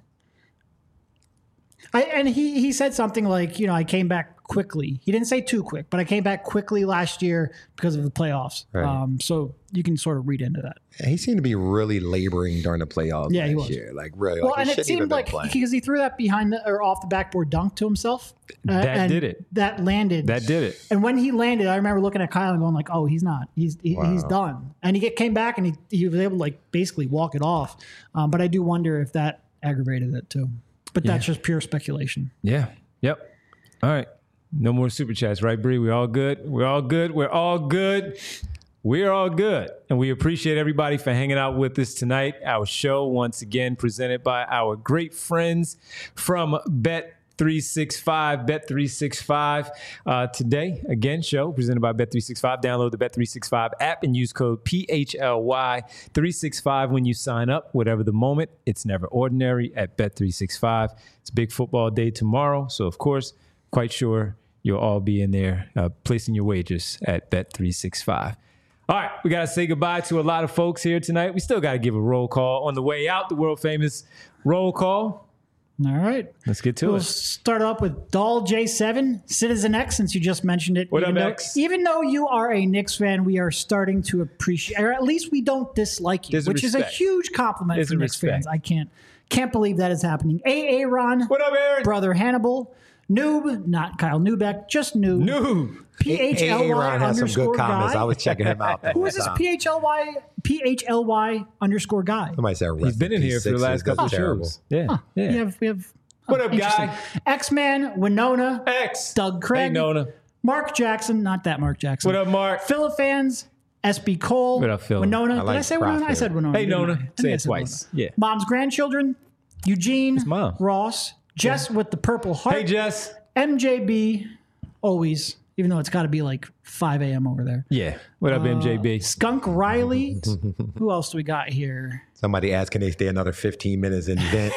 I and he he said something like, you know, I came back quickly. He didn't say too quick, but I came back quickly last year because of the playoffs. Right. Um, so you can sort of read into that. And he seemed to be really laboring during the playoffs Yeah, last he was. year. Like, really. Well, like, he and it shouldn't even seemed been like playing. because he threw that behind the, or off the backboard dunk to himself. uh, That and did it. That landed. that did it. And when he landed, I remember looking at Kyle and going like, "Oh, he's not. He's he, he's Wow. done." And he get, came back and he, he was able to like basically walk it off. Um, but I do wonder if that aggravated it too. But that's just pure speculation. Yeah. Yep. All right. No more super chats, right, Bree? We're all good. We're all good. We're all good. We're all good. And we appreciate everybody for hanging out with us tonight. Our show, once again, presented by our great friends from Bet three sixty-five. Bet three sixty-five uh, today, again, show presented by Bet three sixty-five. Download the Bet three sixty-five app and use code P H L Y three sixty-five when you sign up. Whatever the moment, it's never ordinary at Bet three sixty-five. It's a big football day tomorrow. So, of course, quite sure you'll all be in there uh, placing your wagers at Bet three sixty-five. All right, we got to say goodbye to a lot of folks here tonight. We still got to give a roll call on the way out, the world famous roll call. All right. Let's get to We'll it. start off with Doll J seven, Citizen X, since you just mentioned it. What even up, though, X? Even though you are a Knicks fan, we are starting to appreciate, or at least we don't dislike you, There's a which is a respect. huge compliment There's for a Knicks respect. fans. I can't can't believe that is happening. A. Aaron, What up, Aaron? Brother Hannibal, Noob, not Kyle Newbeck, just Noob. Noob. P H L Y Aaron has some underscore good comments. guy. I was checking him out. Who is this P H L Y P H L Y underscore guy? Somebody said He's been in here for the last couple of terrible. shows. Yeah. yeah. We have we have. What up, interesting. guy? X-Man, Winona, X. Doug Craig, Hey, Nona. Mark Jackson, not that Mark Jackson. What up, Mark? Philifans, S B Cole, What up, Phil? Winona. I Did like I say Prof Winona? I here. said Winona. Hey, didn't Nona. I? I think Say I it said twice. Winona. Yeah. Mom's grandchildren, Eugene, Mom. Ross, Jess with the purple heart, Hey, Jess. M J B, always, even though it's got to be like five a.m. over there. Yeah. What up, M J B? Skunk Riley. Who else do we got here? Somebody asked, can they stay another fifteen minutes and vent?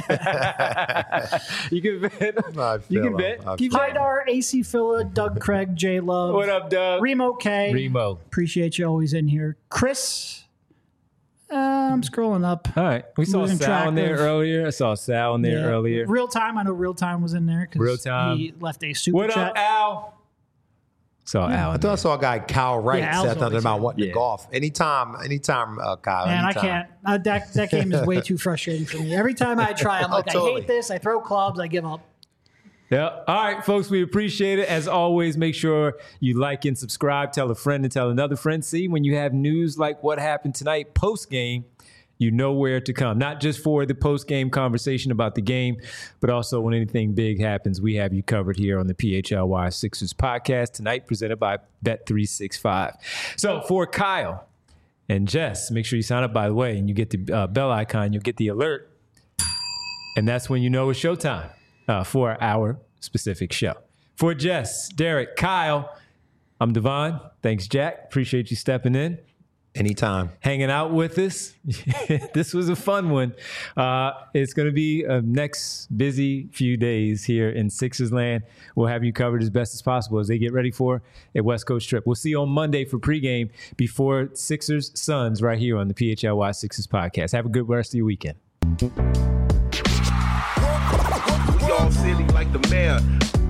You can bet. I You feel can him. bet. I Keep feel betting. Haidar, A C Phila, Doug Craig, J Love, What up, Doug? Remo K. Remo. Appreciate you always in here. Chris. Uh, I'm scrolling up. All right. We saw Losing Sal track in there of- earlier. I saw Sal in there Yeah. earlier. Real time. I know Real Time was in there Real because Time. he left a super What chat. up, Al? Saw Al. I in thought I there. saw a guy, Kyle Wright, Yeah, Al's said something always about here. wanting Yeah. to golf. Anytime, anytime, uh, Kyle. Man, I anytime. can't. Uh, that that game is way too frustrating for me. Every time I try, I'm Oh, like, I totally. hate this. I throw clubs. I give up. Yeah. All right, folks, we appreciate it. As always, make sure you like and subscribe. Tell a friend and tell another friend. See, when you have news like what happened tonight post-game, you know where to come. Not just for the post-game conversation about the game, but also when anything big happens, we have you covered here on the P H L Y Sixers podcast tonight, presented by Bet three sixty-five. So for Kyle and Jess, make sure you sign up, by the way, and you get the uh, bell icon. You'll get the alert. And that's when you know it's showtime uh, for our specific show. For Jess, Derek, Kyle, I'm Devon. Thanks, Jack. Appreciate you stepping in, Anytime. hanging out with us. This was a fun one. Uh, it's going to be a next busy few days here in Sixers land. We'll have you covered as best as possible as they get ready for a West Coast trip. We'll see you on Monday for pregame before Sixers Suns right here on the P H L Y Sixers podcast. Have a good rest of your weekend. We all silly like the mayor.